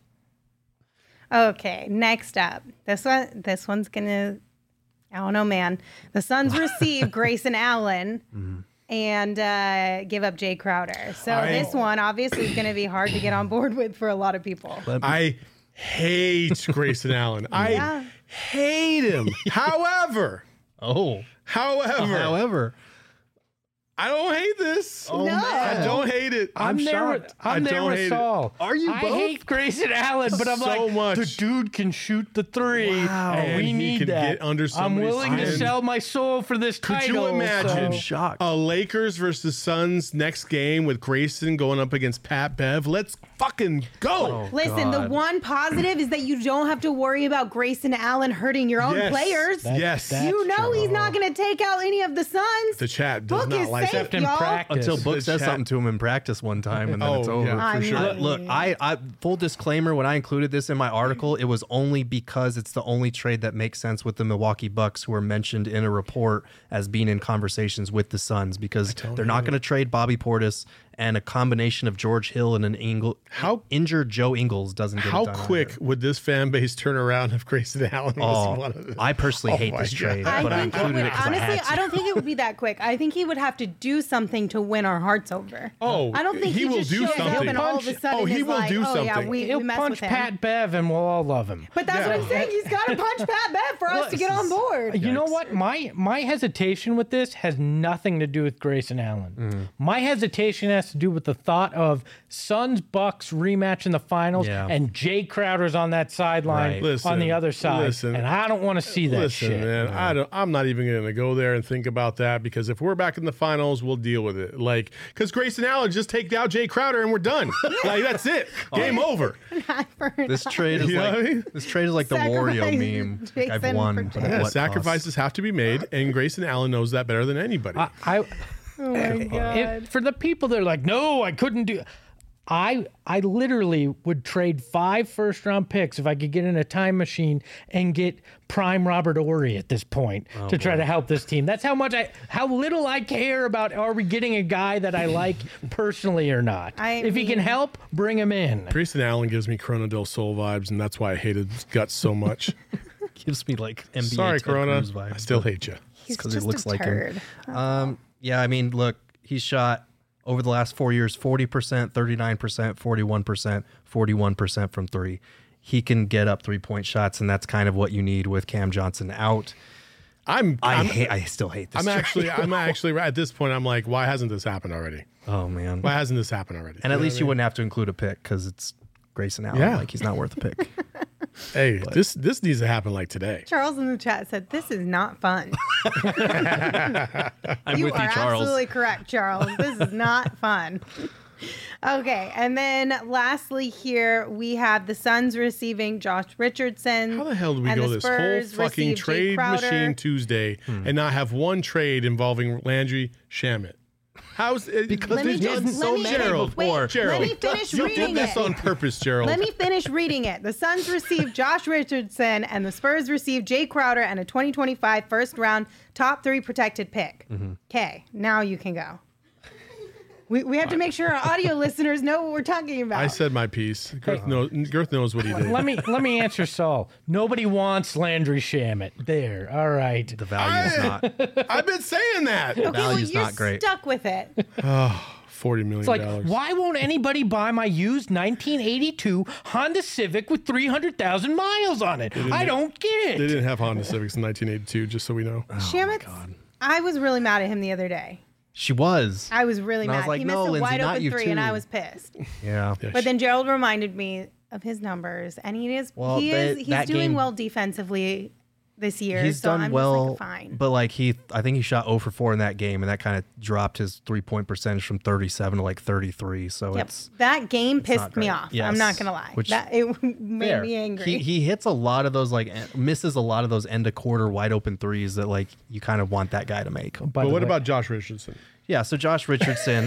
Okay, next up. This one this one's gonna I don't know, man. The Suns receive Grayson Allen and uh, give up Jay Crowder. So I- this one obviously is gonna be hard to get on board with for a lot of people. I hate Grayson Allen. I Yeah. hate him. However, Oh, however, however, I don't hate this. Oh, No. man. I don't hate it. I'm, I'm there. shocked. With, I'm I there don't with hate it. Saul. Are you I both? hate Grayson Allen, but I'm So like, much. the dude can shoot the three. Wow. And we And he need could that. get under I'm somebody's willing to skin. sell my soul for this Could title. you imagine I'm so- shocked. a Lakers versus Suns next game with Grayson going up against Pat Bev? Let's fucking go. Listen, the God. one positive is that you don't have to worry about Grayson Allen hurting your own Yes. players. That- Yes. that's You know true. he's not going to take out any of the Suns. The chat does Book not is like safe, Except in y'all. practice. Until Book The says chat- something to him in practice one time, and then Oh, it's over. yeah, for I sure. mean- Look, look, I, I full disclaimer, when I included this in my article, it was only because it's the only trade that makes sense with the Milwaukee Bucks, who are mentioned in a report as being in conversations with the Suns, because they're not going to trade Bobby Portis, and a combination of George Hill and an Ingle, How- injured Joe Ingles doesn't get How it done quick either. would this fan base turn around if Grayson Allen was Oh, one of them? I personally Oh hate my this trade, God. but I I think it included would, it because I honestly, had to. I don't think it would be that quick. I think he would have to do something to win our hearts over. Oh, I don't think he he, will just do shows up something. and all of a Punch- sudden oh, he is will like, do oh yeah, something. we, He'll we mess punch with him. Pat Bev and we'll all love him. But that's Yeah. what I'm saying. He's got to punch Pat Bev for us to get on board. You know Yikes. what? My my hesitation with this has nothing to do with Grayson Allen. My hesitation has has to do with the thought of Suns Bucks rematch in the finals, Yeah. and Jay Crowder's on that sideline Right. Listen, on the other side, listen. and I don't want to see that Listen, shit. man, I don't. I'm not even going to go there and think about that because if we're back in the finals, we'll deal with it. Like, because Grayson Allen just take out Jay Crowder and we're done. Like that's it. Game over. This trade is You know like what I mean? this trade is like the Wario Sacrifice meme. Like, Jason I've won, for but Jay. at Yeah, what cost? sacrifices have to be made, and Grayson Allen knows that better than anybody. I, I Oh my God. if, for the people that are like, no, I couldn't do. I I literally would trade five first round picks if I could get in a time machine and get prime Robert Ory at this point Oh, to try to help this team. That's how much I, how little I care about. Are we getting a guy that I like personally or not? I if he can mean- help, bring him in. Grayson Allen gives me Corona del Sol vibes, and that's why I hated his guts so much. Gives me like N B A Sorry, Ted Corona. Cruz vibes, I still but- hate you. He's because he just looks a like turd. him. Um, yeah, I mean, look, he's shot over the last four years forty percent, thirty-nine percent, forty-one percent, forty-one percent from three. He can get up three point shots, and that's kind of what you need with Cam Johnson out. I'm. I I'm, hate. I still hate this. I'm trade. actually. I'm actually at this point. I'm like, why hasn't this happened already? Oh man. Why hasn't this happened already? And at know least what you I mean? wouldn't have to include a pick because it's Grayson Allen. Yeah. Like he's not worth a pick. Hey, this this needs to happen like today. Charles in the chat said, "This is not fun." I'm you with are you, Charles. absolutely correct, Charles. This is not fun. Okay, and then lastly here we have the Suns receiving Josh Richardson. How the hell did we and go the this whole Spurs fucking receive Jay trade Crowder. machine Tuesday Hmm. and not have one trade involving Landry Shamet? How's it? Because Let me we've just- done let so me- many Gerald, Wait, before. Gerald, let me finish you reading did this it. on purpose, Gerald. Let me finish reading it. The Suns received Josh Richardson, and the Spurs received Jay Crowder and a twenty twenty-five first round top three protected pick. Okay, now you can go. We, we have to make sure our audio listeners know what we're talking about. I said my piece. Girth knows, Girth knows what he did. Let me let me answer Saul. Nobody wants Landry Shamet. There. All right. The value is not. I've been saying that. okay, well, value's you're not great. stuck with it. Forty million It's like, dollars. why won't anybody buy my used nineteen eighty-two Honda Civic with three hundred thousand miles on it? I don't get They it. didn't have Honda Civics in nineteen eighty-two. Just so we know. Shamit's, I was really mad at him the other day. She was. I was really And I mad. was like, he no, missed a Lindsay, wide not open you three, and too. I was pissed. Yeah. Yeah, But then Gerald reminded me of his numbers, and he is Well, he that- is he's that doing game- well defensively this year. He's so done I'm well, just like, fine. but like he, I think he shot zero for four in that game, and that kind of dropped his three point percentage from thirty-seven to like thirty-three. So Yep. it's That game not pissed me great. off. Yes. I'm not gonna lie. Which- that it made fair. me angry. He he hits a lot of those like en- misses a lot of those end of quarter wide open threes that like you kind of want that guy to make. By But the what way, about Josh Richardson? Yeah. So Josh Richardson.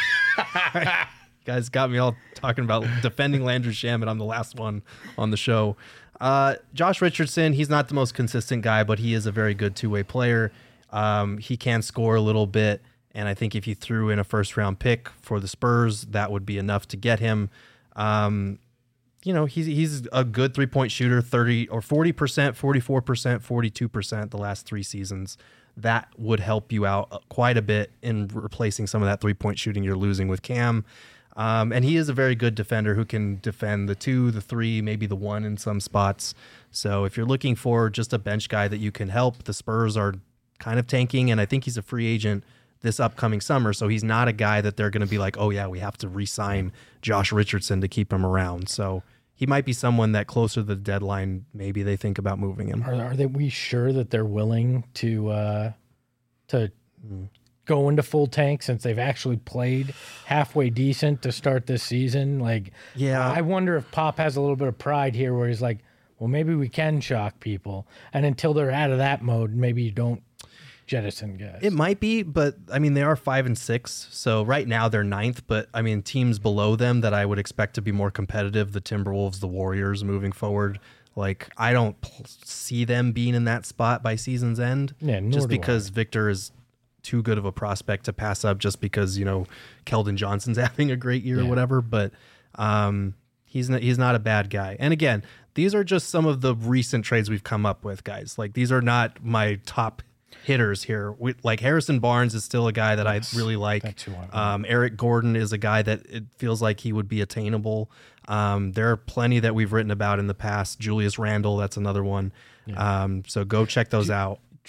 Guys got me all talking about defending Landry Shamet. I'm the last one on the show. Uh, Josh Richardson, he's not the most consistent guy, but he is a very good two-way player. Um, he can score a little bit, and I think if you threw in a first-round pick for the Spurs, that would be enough to get him. Um, you know, he's he's a good three-point shooter, thirty or forty percent, forty-four percent, forty-two percent the last three seasons. That would help you out quite a bit in replacing some of that three-point shooting you're losing with Cam. Um, and he is a very good defender who can defend the two, the three, maybe the one in some spots. So if you're looking for just a bench guy that you can help, the Spurs are kind of tanking, and I think he's a free agent this upcoming summer. So he's not a guy that they're going to be like, oh yeah, we have to re-sign Josh Richardson to keep him around. So he might be someone that closer to the deadline, maybe they think about moving him. Are, are they we sure that they're willing to uh, to go into full tank since they've actually played halfway decent to start this season? Like, Yeah. I wonder if Pop has a little bit of pride here, where he's like, well, maybe we can shock people, and until they're out of that mode, maybe you don't jettison guys. It might be, but I mean, they are five and six. So right now they're ninth, but I mean, teams below them that I would expect to be more competitive, the Timberwolves, the Warriors moving forward. Like, I don't p- see them being in that spot by season's end. Yeah, nor just do because Victor is too good of a prospect to pass up just because, you know, Keldon Johnson's having a great year or Yeah. whatever. But um, he's not, he's not a bad guy. And again, these are just some of the recent trades we've come up with, guys. Like, these are not my top hitters here. We, like Harrison Barnes is still a guy that I really like. that's who I want. Um, Eric Gordon is a guy that it feels like he would be attainable. Um, there are plenty that we've written about in the past. Julius Randle, that's another one. Um, so go check those out.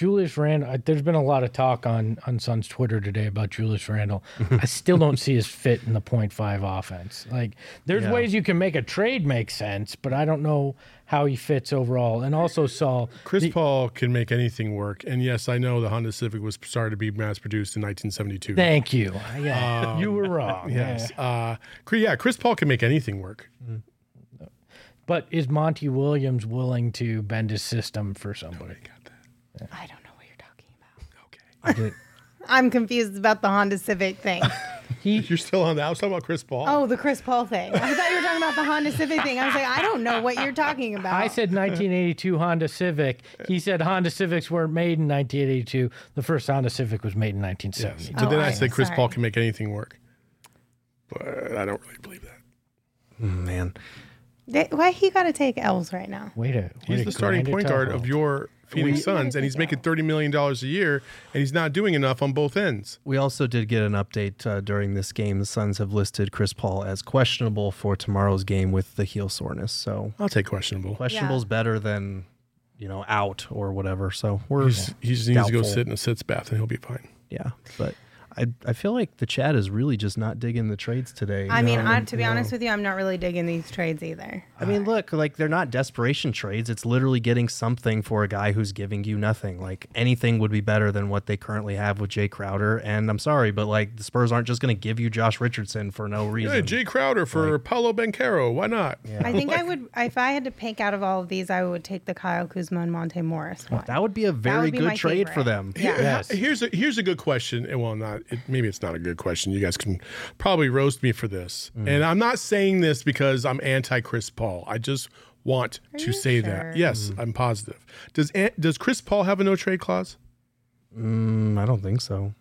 Julius Randle, I- there's been a lot of talk on, on Suns Twitter today about Julius Randle. I still don't see his fit in the point five offense. Like, there's Yeah. ways you can make a trade make sense, but I don't know how he fits overall. And also, Saul, Chris the- Paul can make anything work. And yes, I know the Honda Civic was started to be mass produced in nineteen seventy-two. thank you. Yeah, you were wrong. Yes. Yeah. Uh, Cre- yeah, Chris Paul can make anything work. But is Monty Williams willing to bend his system for somebody? I don't know what you're talking about. Okay. I did, I'm confused about the Honda Civic thing. You're still on that. I was talking about Chris Paul. Oh, the Chris Paul thing. I thought you were talking about the Honda Civic thing. I was like, I don't know what you're talking about. I said nineteen eighty-two Honda Civic. He said Honda Civics weren't made in nineteen eighty-two. The first Honda Civic was made in nineteen yes. seventy. So Oh, then I I- said Chris sorry. Paul can make anything work. But I don't really believe that. man. They- Why he got to take L's right now? Wait a He's wait the a starting grind point it guard tough. of your Phoenix Suns, and he's making thirty million dollars a year, and he's not doing enough on both ends. We also did get an update uh, during this game. The Suns have listed Chris Paul as questionable for tomorrow's game with the heel soreness. So I'll take questionable. questionable's better than, you know, out or whatever. So we're He's, he just needs to go doubtful. sit in a sits bath, and he'll be fine. Yeah, but I I feel like the chat is really just not digging the trades today. I mean, No, I, to be no. honest with you, I'm not really digging these trades either. I mean, look, like they're not desperation trades. It's literally getting something for a guy who's giving you nothing. Like anything would be better than what they currently have with Jay Crowder. And I'm sorry, but like the Spurs aren't just going to give you Josh Richardson for no reason. Yeah, Jay Crowder for Paulo Banchero. Why not? I think I would, if I had to pick out of all of these, I would take the Kyle Kuzma and Monte Morris one. That would be a very would be good my trade for favorite. them. Yeah. Yes. Here's a here's a good question. and Well, not it, maybe it's not a good question. You guys can probably roast me for this, and I'm not saying this because I'm anti Chris Paul. I just want to you say sure? that. Yes, I'm positive. Does An- does Chris Paul have a no trade clause? Mm, I don't think so.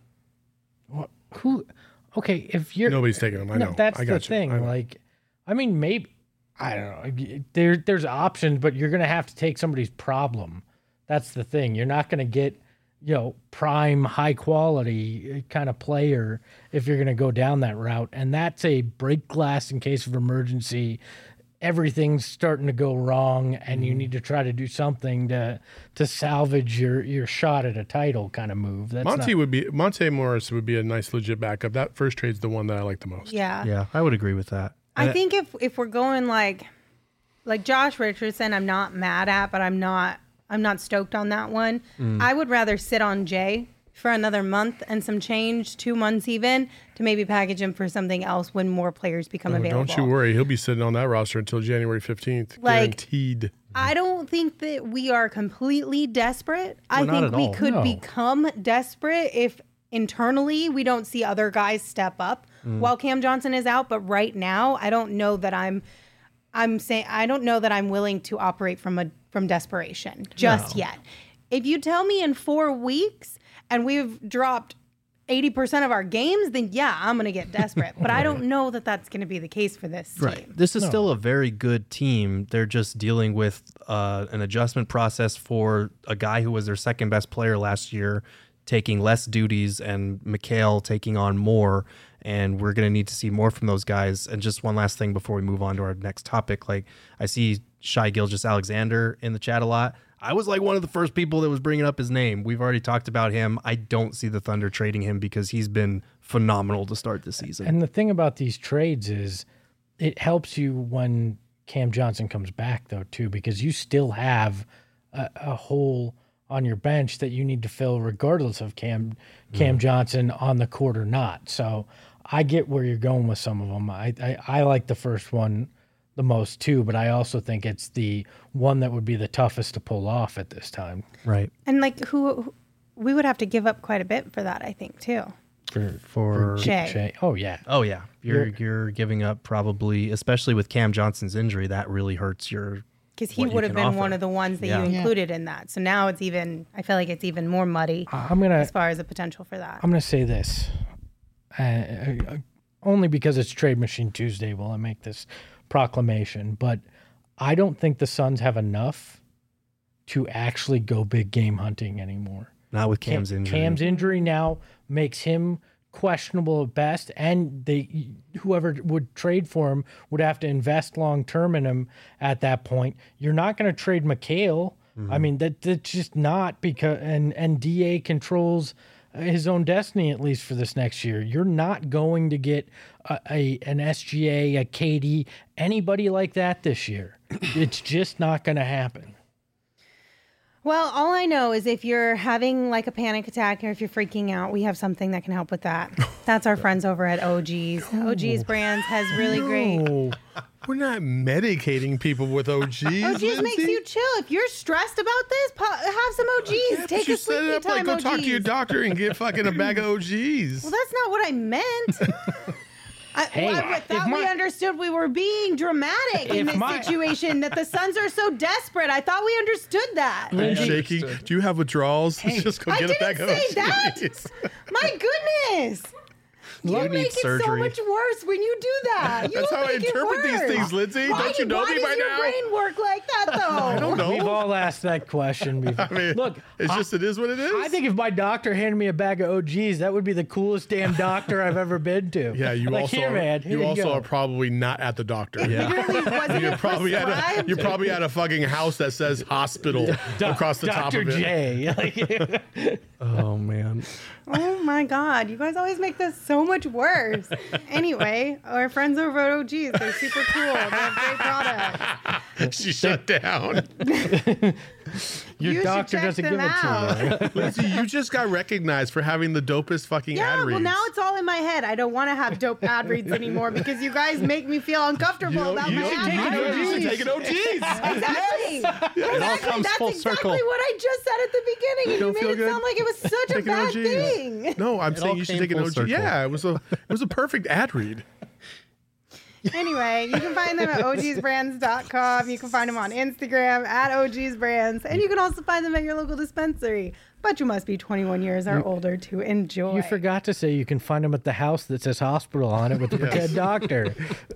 Who? Okay, if you're Nobody's taking him. I know. no, that's I the got you. thing. I know. Like, I mean, maybe I don't know. There, there's options, but you're gonna have to take somebody's problem. That's the thing. You're not gonna get, you know, prime, high quality kind of player if you're gonna go down that route. And that's a break glass in case of emergency. Everything's starting to go wrong, and you need to try to do something to to salvage your your shot at a title kind of move. That's Monty not, would be Monte Morris would be a nice legit backup. That first trade's the one that I like the most. Yeah. Yeah, I would agree with that. I think if if we're going like like Josh Richardson, I'm not mad at, but I'm not I'm not stoked on that one. I would rather sit on Jay for another month and some change, two months even, to maybe package him for something else when more players become Oh, available. don't you worry, he'll be sitting on that roster until January fifteenth, Like- guaranteed. I don't think that we are completely desperate. I Well, not think at we all. could No. become desperate if internally we don't see other guys step up while Cam Johnson is out. But right now, I don't know that I'm. I'm saying I don't know that I'm willing to operate from a from desperation just yet. If you tell me in four weeks and we've dropped eighty percent of our games, then yeah, I'm going to get desperate. But I don't know that that's going to be the case for this team. Right. This is still a very good team. They're just dealing with uh, an adjustment process for a guy who was their second best player last year, taking less duties, and Mikhail taking on more. And we're going to need to see more from those guys. And just one last thing before we move on to our next topic. Like, I see Shai Gilgeous-Alexander in the chat a lot. I was like one of the first people that was bringing up his name. We've already talked about him. I don't see the Thunder trading him because he's been phenomenal to start the season. And the thing about these trades is it helps you when Cam Johnson comes back, though, too, because you still have a, a hole on your bench that you need to fill regardless of Cam Cam Johnson on the court or not. So I get where you're going with some of them. I, I, I like the first one the most, too, but I also think it's the one that would be the toughest to pull off at this time. right. And like who, who we would have to give up quite a bit for that, I think, too. For, For Jay. Jay. Oh, yeah. Oh yeah, you're You're- you're giving up probably, especially with Cam Johnson's injury, that really hurts your. Because he what you would have can been offer. one of the ones that Yeah. you Yeah. included in that. So now it's even, I feel like it's even more muddy I'm going to as far as the potential for that. I'm going to say this, uh, uh, only because it's Trade Machine Tuesday will I make this proclamation, but I don't think the Suns have enough to actually go big game hunting anymore. Not with Cam- Cam's injury. Cam's injury now makes him questionable at best, and they whoever would trade for him would have to invest long term in him at that point. You're not going to trade Mikhail I mean, that that's just not because and and D A controls his own destiny, at least for this next year. You're not going to get a, a an S G A, a K D, anybody like that this year. It's just not going to happen. Well, all I know is if you're having like a panic attack or if you're freaking out, we have something that can help with that. That's our friends over at O G's. O G's Brands has really great. No, we're not medicating people with O Gs. O G's Lindsay. makes you chill. If you're stressed about this, po- have some O Gs. Yeah, but Take you a set it sleepy up time like go O Gs. talk to your doctor and get fucking a bag of O Gs. Well, that's not what I meant. I, Hey, well, I if thought we my- understood we were being dramatic in If this my- situation, that the Suns are so desperate. I thought we understood that. Are you shaking? Do you have withdrawals? Just go I get a bag didn't of say that. O Gs. My goodness. You need make it so surgery. much worse when you do that. You That's how I make it interpret these worse. things, Lindsay. Why Don't you do- know why me does by your now? brain work like that, though? I don't know. We've all asked that question before. I mean, Look, it's I- just it is what it is. I think if my doctor handed me a bag of O Gs, that would be the coolest damn doctor I've ever been to. Yeah, you like, also here, are, man. Here you you also go. are probably not at the doctor. Literally, wasn't You're it probably at a prescribed? you're probably at a fucking house that says hospital Doc- across the top Doctor of it. J. Like, Oh man. Oh my God, you guys always make this so much worse. Anyway, our friends over at O G's, they're super cool. They have great products. She shut down. your You should doctor check doesn't them give it out. to you. Right? Lindsay, you just got recognized for having the dopest fucking Yeah, ad well, reads. now it's all in my head. I don't want to have dope ad reads anymore because you guys make me feel uncomfortable You know- about you my know- ad you know- reads. you should take an O Gs. Exactly. It all comes That's full exactly circle. what I just said at the beginning, and you Don't made feel it good? sound like it was such a Take an bad O Gs. thing. No, I'm It saying all you should came take an full O G. circle. Yeah, it was a it was a perfect ad read. Anyway, you can find them at O Gs brands dot com. You can find them on Instagram at O Gs Brands. And you can also find them at your local dispensary. But you must be twenty-one years or older to enjoy. You forgot to say you can find them at the house that says hospital on it with the pretend doctor.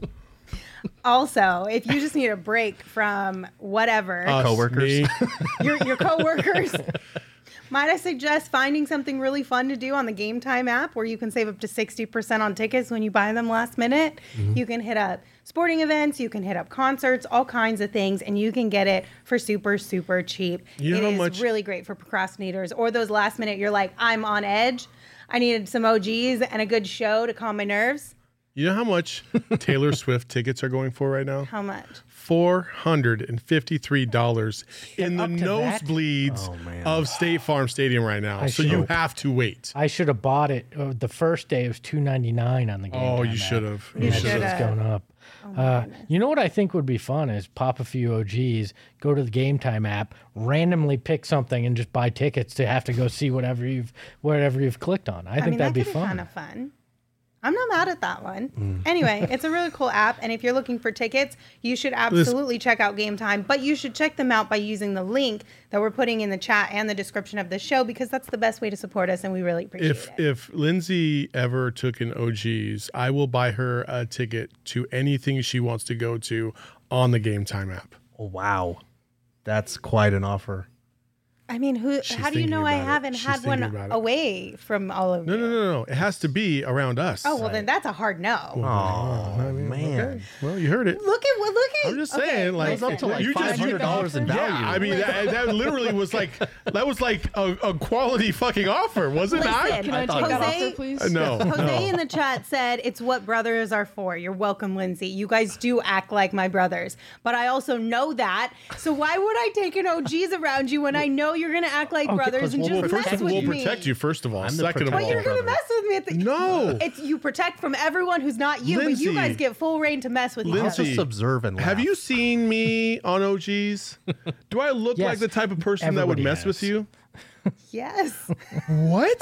Also, if you just need a break from whatever, Us, Coworkers. me. your, your coworkers, might I suggest finding something really fun to do on the Game Time app where you can save up to sixty percent on tickets when you buy them last minute. Mm-hmm. You can hit up sporting events, you can hit up concerts, all kinds of things, and you can get it for super, super cheap. You know It how is much- really great for procrastinators or those last minute, you're like, I'm on edge. I needed some O Gs and a good show to calm my nerves. You know how much Taylor Swift tickets are going for right now? How much? Four hundred and fifty-three dollars in the up to that? nosebleeds Oh, man. of State Farm Stadium right now. I so should- you have to wait. I should have bought it. Uh, the first day it was two ninety nine on the game. Oh, Time you app. should have. You Yeah, should so it's have. going up. uh, you know what I think would be fun is pop a few O Gs, go to the Game Time app, randomly pick something, and just buy tickets to have to go see whatever you've whatever you've clicked on. I, I think mean, that'd that be could fun. kind of fun. I'm not mad at that one. Mm. Anyway, it's a really cool app, and if you're looking for tickets, you should absolutely check out Game Time, but you should check them out by using the link that we're putting in the chat and the description of the show because that's the best way to support us, and we really appreciate If it. if Lindsay ever took an O Gs, I will buy her a ticket to anything she wants to go to on the Game Time app. Oh, wow. That's quite an offer. I mean, who? She's how do you thinking know I about it. haven't She's had one thinking about it. away from all of No, you? no, no, no. It has to be around us. Oh well, then that's a hard no. Oh, man. Okay. Well, you heard it. Look at what look at. I'm just okay, saying, like, listen. up to like You just- five hundred dollars in Yeah, value. I mean that, that literally was like that was like a, a quality fucking offer, was it not? Listen, Can I thought take that Jose- offer, please? Uh, No, Jose no. in the chat said it's what brothers are for. You're welcome, Lindsay. You guys do act like my brothers, but I also know that. So why would I take an O Gs around you when I know you're gonna act like brothers and Well, just we'll, first mess of all, with we'll me? protect you. First of all, I'm the second of protector. all, But you're gonna brother. mess with me at the No. It's you protect from everyone who's not you, but Lindsay. you guys get full reign to mess with each I'll Lindsay. other. just observe and laugh. Have you seen me on O Gs? Do I look Yes. like the type of person that would Everybody mess has. with you? Yes. What?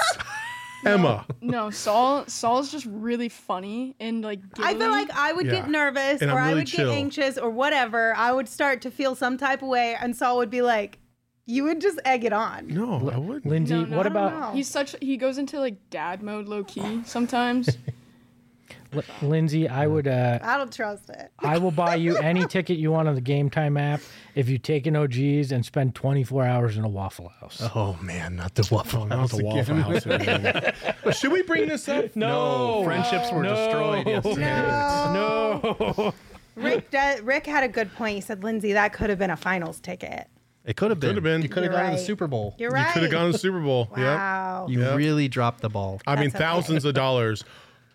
Emma. No, Saul. Saul's just really funny and like. I feel giggly. like I would Yeah. get nervous And or I'm I really would chill. get anxious or whatever. I would start to feel some type of way, and Saul would be like, "You would just egg it on." No, I wouldn't. Lindsay, No, no, what I don't about know. He's such. He goes into like dad mode, low key sometimes. L- Lindsay? I would. Uh, I don't trust it. I will buy you any ticket you want on the Game Time app if you take an O Gs and spend twenty-four hours in a Waffle House. Oh, man, not the Waffle Not House the again. Waffle House again. Should we bring this up? No, friendships were destroyed yesterday. No. Rick, de- Rick had a good point. He said, "Lindsay, that could have been a finals ticket." It could have been. Could have been. You could have You're gone to the right. Super Bowl. You're You right. could have gone to the Super Bowl. Wow. You Yep. really dropped the ball. I mean, That's okay. thousands of dollars.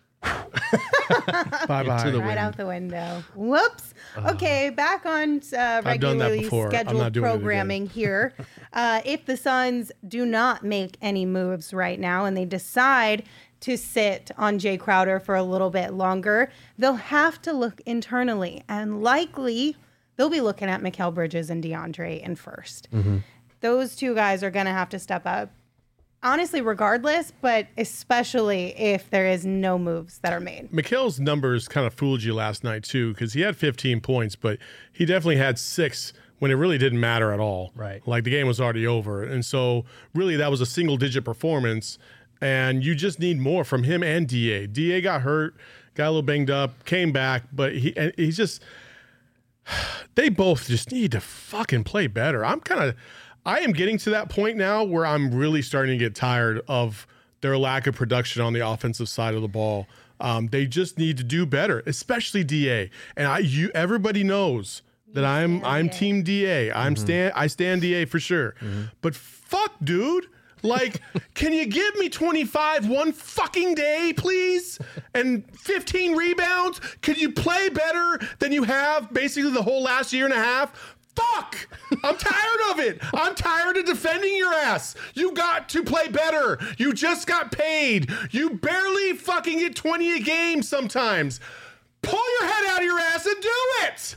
Bye bye. Into the Right wind. out the window. Whoops. Okay, back on uh, done that regularly before. I'm scheduled not doing it again. programming here. Uh, if the Suns do not make any moves right now and they decide to sit on Jay Crowder for a little bit longer, they'll have to look internally, and likely they'll be looking at Mikal Bridges and DeAndre in first. Those two guys are going to have to step up. Honestly, regardless, but especially if there is no moves that are made. Mikal's numbers kind of fooled you last night too, because he had fifteen points, but he definitely had six when it really didn't matter at all. Right. Like the game was already over, and so really that was a single-digit performance, and you just need more from him and D A. D A got hurt, got a little banged up, came back, but he and he's just. They both just need to fucking play better. I'm kind of. I am getting to that point now where I'm really starting to get tired of their lack of production on the offensive side of the ball. Um, they just need to do better, especially D A. And I, you, everybody knows that I'm, I'm D A. Team D A. I'm stand, I stand D A for sure. But fuck, dude. Like, can you give me twenty-five one fucking day, please? And fifteen rebounds? Could you play better than you have basically the whole last year and a half? Fuck! I'm tired of it. I'm tired of defending your ass. You got to play better. You just got paid. You barely fucking get twenty a game sometimes. Pull your head out of your ass and do it.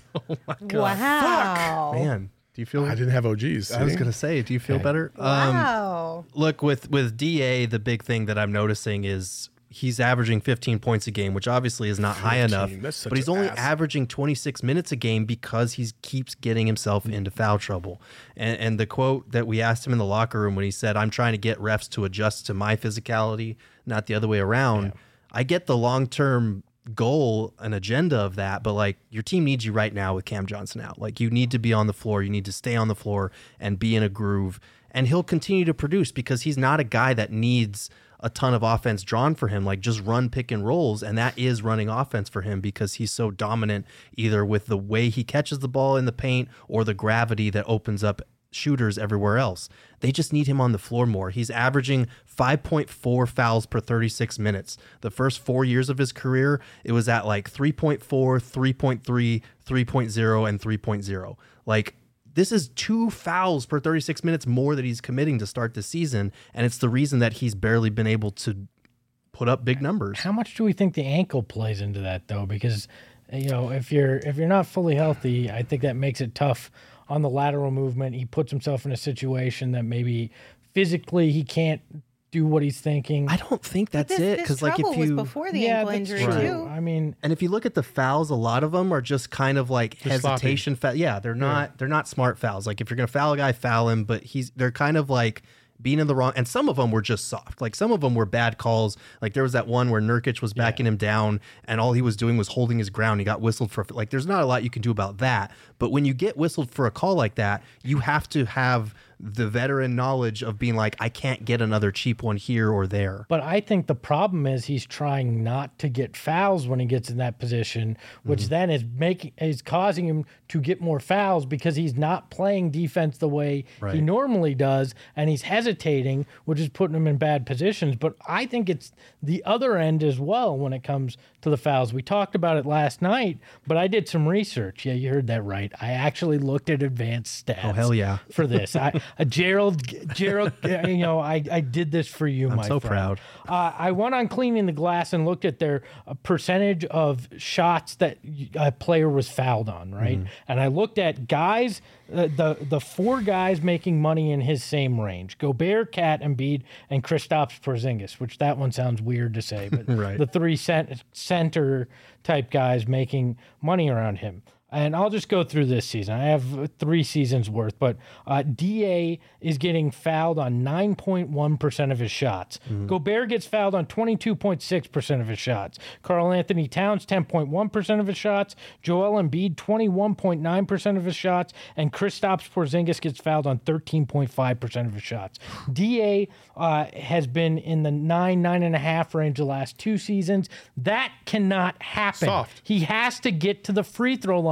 Wow. Man, do you feel? I didn't have O Gs. I was see? gonna say, do you feel better? Um, Wow. look, with with D A, the big thing that I'm noticing is he's averaging fifteen points a game, which obviously is not high enough. That's such But he's an only ass. averaging twenty-six minutes a game because he keeps getting himself into foul trouble. And, and the quote that we asked him in the locker room when he said, "I'm trying to get refs to adjust to my physicality, not the other way around." I get the long term goal and agenda of that, but like your team needs you right now with Cam Johnson out. Like you need to be on the floor, you need to stay on the floor and be in a groove, and he'll continue to produce because he's not a guy that needs a ton of offense drawn for him. Like just run pick and rolls, and that is running offense for him because he's so dominant either with the way he catches the ball in the paint or the gravity that opens up shooters everywhere else. They just need him on the floor more. He's averaging five point four fouls per thirty-six minutes. The first four years of his career, it was at like three point four, three point three, three point oh, and three point oh. Like this is two fouls per thirty-six minutes more that he's committing to start the season, and it's the reason that he's barely been able to put up big numbers. How much do we think the ankle plays into that though? Because you know, if you're if you're not fully healthy, I think that makes it tough on the lateral movement. He puts himself in a situation that maybe physically he can't do what he's thinking. I don't think that's this, it this because like trouble if you was before the yeah, ankle that's injury true. too. I mean, and if you look at the fouls, a lot of them are just kind of like They're sloppy. hesitation. Fa- yeah, they're not they're not smart fouls. Like if you're gonna foul a guy, foul him. But he's they're kind of like being in the wrong. And some of them were just soft. Like some of them were bad calls. Like there was that one where Nurkic was backing him down, and all he was doing was holding his ground. He got whistled for. Like there's not a lot you can do about that. But when you get whistled for a call like that, you have to have the veteran knowledge of being like, I can't get another cheap one here or there. but I think the problem is he's trying not to get fouls when he gets in that position, which Mm-hmm. then is making is causing him to get more fouls because he's not playing defense the way he Right. normally does, and he's hesitating, which is putting him in bad positions. But I think it's the other end as well when it comes to the fouls. We talked about it last night, but I did some research. Yeah, you heard that right. I actually looked at advanced stats. Oh, hell yeah. For this, I uh, Gerald, Gerald, uh, you know, I, I did this for you, I'm my so friend. proud. Uh, I went on Cleaning the Glass and looked at their uh, percentage of shots that a player was fouled on, right? Mm-hmm. And I looked at guys, uh, the the four guys making money in his same range: Gobert, Cat, Embiid, and Kristaps Porzingis. Which that one sounds weird to say, but Right. the three cent- center type guys making money around him. And I'll just go through this season. I have three seasons worth, but uh, D A is getting fouled on nine point one percent of his shots. Gobert gets fouled on twenty-two point six percent of his shots. Karl Anthony Towns, ten point one percent of his shots. Joel Embiid, twenty-one point nine percent of his shots. And Kristaps Porzingis gets fouled on thirteen point five percent of his shots. D A uh, has been in the nine, nine and a half range the last two seasons. That cannot happen. Soft. He has to get to the free throw line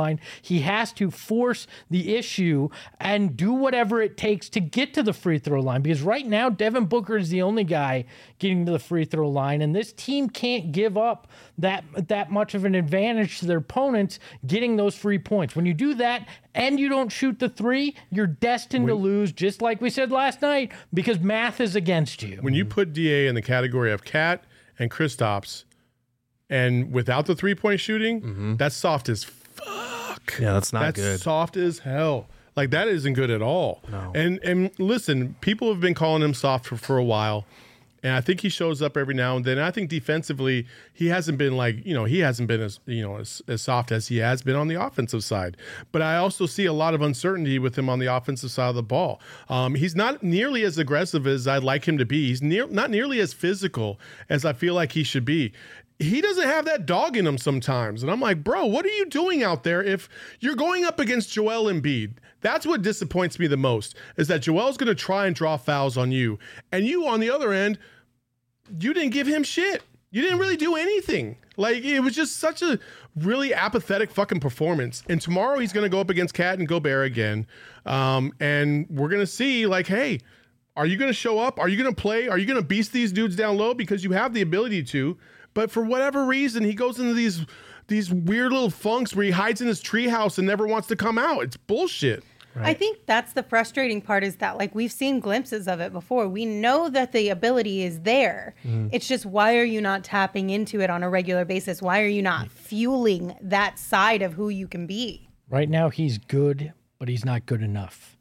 line. He has to force the issue and do whatever it takes to get to the free throw line, because right now Devin Booker is the only guy getting to the free throw line, and this team can't give up that that much of an advantage to their opponents getting those free points. When you do that and you don't shoot the three, you're destined when, to lose, just like we said last night, because math is against you. When you put D A in the category of Cat and Kristaps, and without the three-point shooting, mm-hmm. that's soft as fuck. Yeah, that's not that's good. That's soft as hell. Like, that isn't good at all. No. And and listen, people have been calling him soft for, for a while. And I think he shows up every now and then. I think defensively, he hasn't been like, you know, he hasn't been as, you know, as, as soft as he has been on the offensive side. But I also see a lot of uncertainty with him on the offensive side of the ball. Um, he's not nearly as aggressive as I'd like him to be. He's near, not nearly as physical as I feel like he should be. He doesn't have that dog in him sometimes. And I'm like, bro, what are you doing out there if you're going up against Joel Embiid? That's what disappoints me the most, is that Joel's going to try and draw fouls on you. And you, on the other end, you didn't give him shit. You didn't really do anything. Like, it was just such a really apathetic fucking performance. And tomorrow he's going to go up against Cat and Gobert again. Um, and we're going to see, like, hey, are you going to show up? Are you going to play? Are you going to beast these dudes down low? Because you have the ability to. But for whatever reason, he goes into these these weird little funks where he hides in his treehouse and never wants to come out. It's bullshit. Right. I think that's the frustrating part, is that, like, we've seen glimpses of it before. We know that the ability is there. Mm. It's just, why are you not tapping into it on a regular basis? Why are you not fueling that side of who you can be? Right now, he's good, but he's not good enough.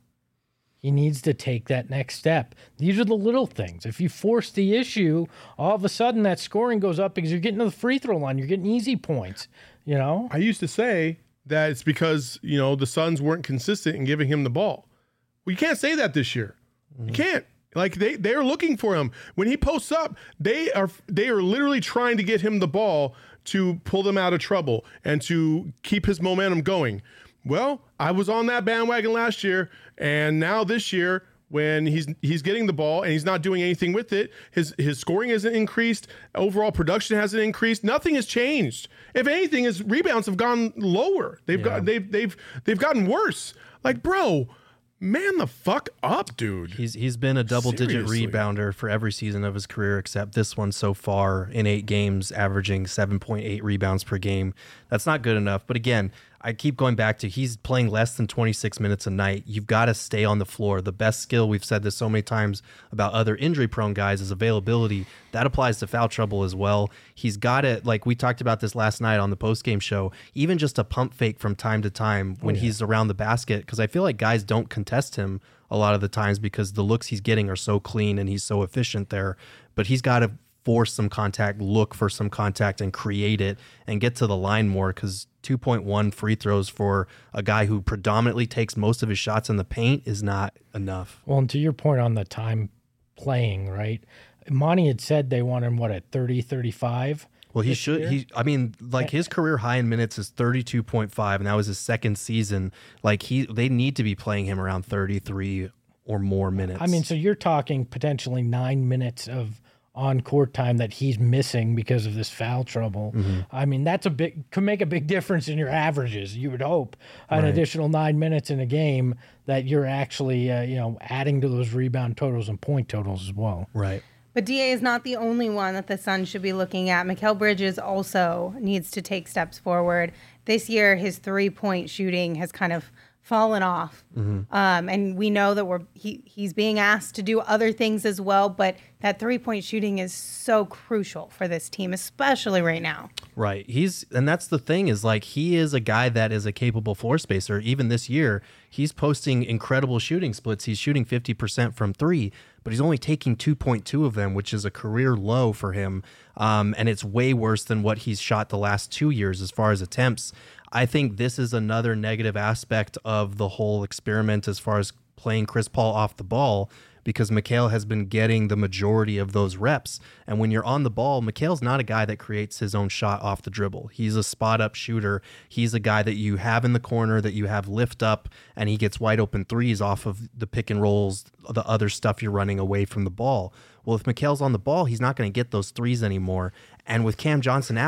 He needs to take that next step. These are the little things. If you force the issue, all of a sudden that scoring goes up because you're getting to the free throw line. You're getting easy points, you know? I used to say that it's because, you know, the Suns weren't consistent in giving him the ball. Well, you can't say that this year. Mm-hmm. You can't. Like, they they're looking for him. When he posts up, they are they are literally trying to get him the ball to pull them out of trouble and to keep his momentum going. Well, I was on that bandwagon last year, and now this year, when he's he's getting the ball and he's not doing anything with it, his his scoring hasn't increased, overall production hasn't increased, nothing has changed. If anything, his rebounds have gone lower. They've yeah. got they've they've they've gotten worse. Like, bro, man the fuck up, dude. He's he's been a double-digit rebounder for every season of his career except this one so far, in eight games, averaging seven point eight rebounds per game. That's not good enough. But again, I keep going back to, he's playing less than twenty-six minutes a night. You've got to stay on the floor. The best skill, we've said this so many times about other injury-prone guys, is availability. That applies to foul trouble as well. He's got it, like we talked about this last night on the post-game show, even just a pump fake from time to time when oh, yeah. he's around the basket, because I feel like guys don't contest him a lot of the times because the looks he's getting are so clean and he's so efficient there. But he's got to force some contact, look for some contact, and create it and get to the line more, because two point one free throws for a guy who predominantly takes most of his shots in the paint is not enough. Well, and to your point on the time playing, right? Monty had said they want him, what, at thirty, thirty-five? Well, he should. Year? He, I mean, like, his career high in minutes is thirty-two point five, and that was his second season. Like, he, they need to be playing him around thirty-three or more minutes. I mean, so you're talking potentially nine minutes of on-court time that he's missing because of this foul trouble. Mm-hmm. I mean, that's a big, could make a big difference in your averages. You would hope an right. additional nine minutes in a game that you're actually, uh, you know, adding to those rebound totals and point totals as well. Right. But D A is not the only one that the Suns should be looking at. Mikal Bridges also needs to take steps forward. This year, his three-point shooting has kind of fallen off. Mm-hmm. Um, and we know that we're he he's being asked to do other things as well, but that three-point shooting is so crucial for this team, especially right now. Right. He's and that's the thing, is like, he is a guy that is a capable floor spacer. Even this year, he's posting incredible shooting splits. He's shooting fifty percent from three, but he's only taking two point two of them, which is a career low for him. Um, and it's way worse than what he's shot the last two years as far as attempts. I think this is another negative aspect of the whole experiment as far as playing Chris Paul off the ball, because Mikal has been getting the majority of those reps. And when you're on the ball, Mikal's not a guy that creates his own shot off the dribble. He's a spot-up shooter. He's a guy that you have in the corner, that you have lift up, and he gets wide open threes off of the pick and rolls, the other stuff you're running away from the ball. Well, if Mikal's on the ball, he's not going to get those threes anymore. And with Cam Johnson out,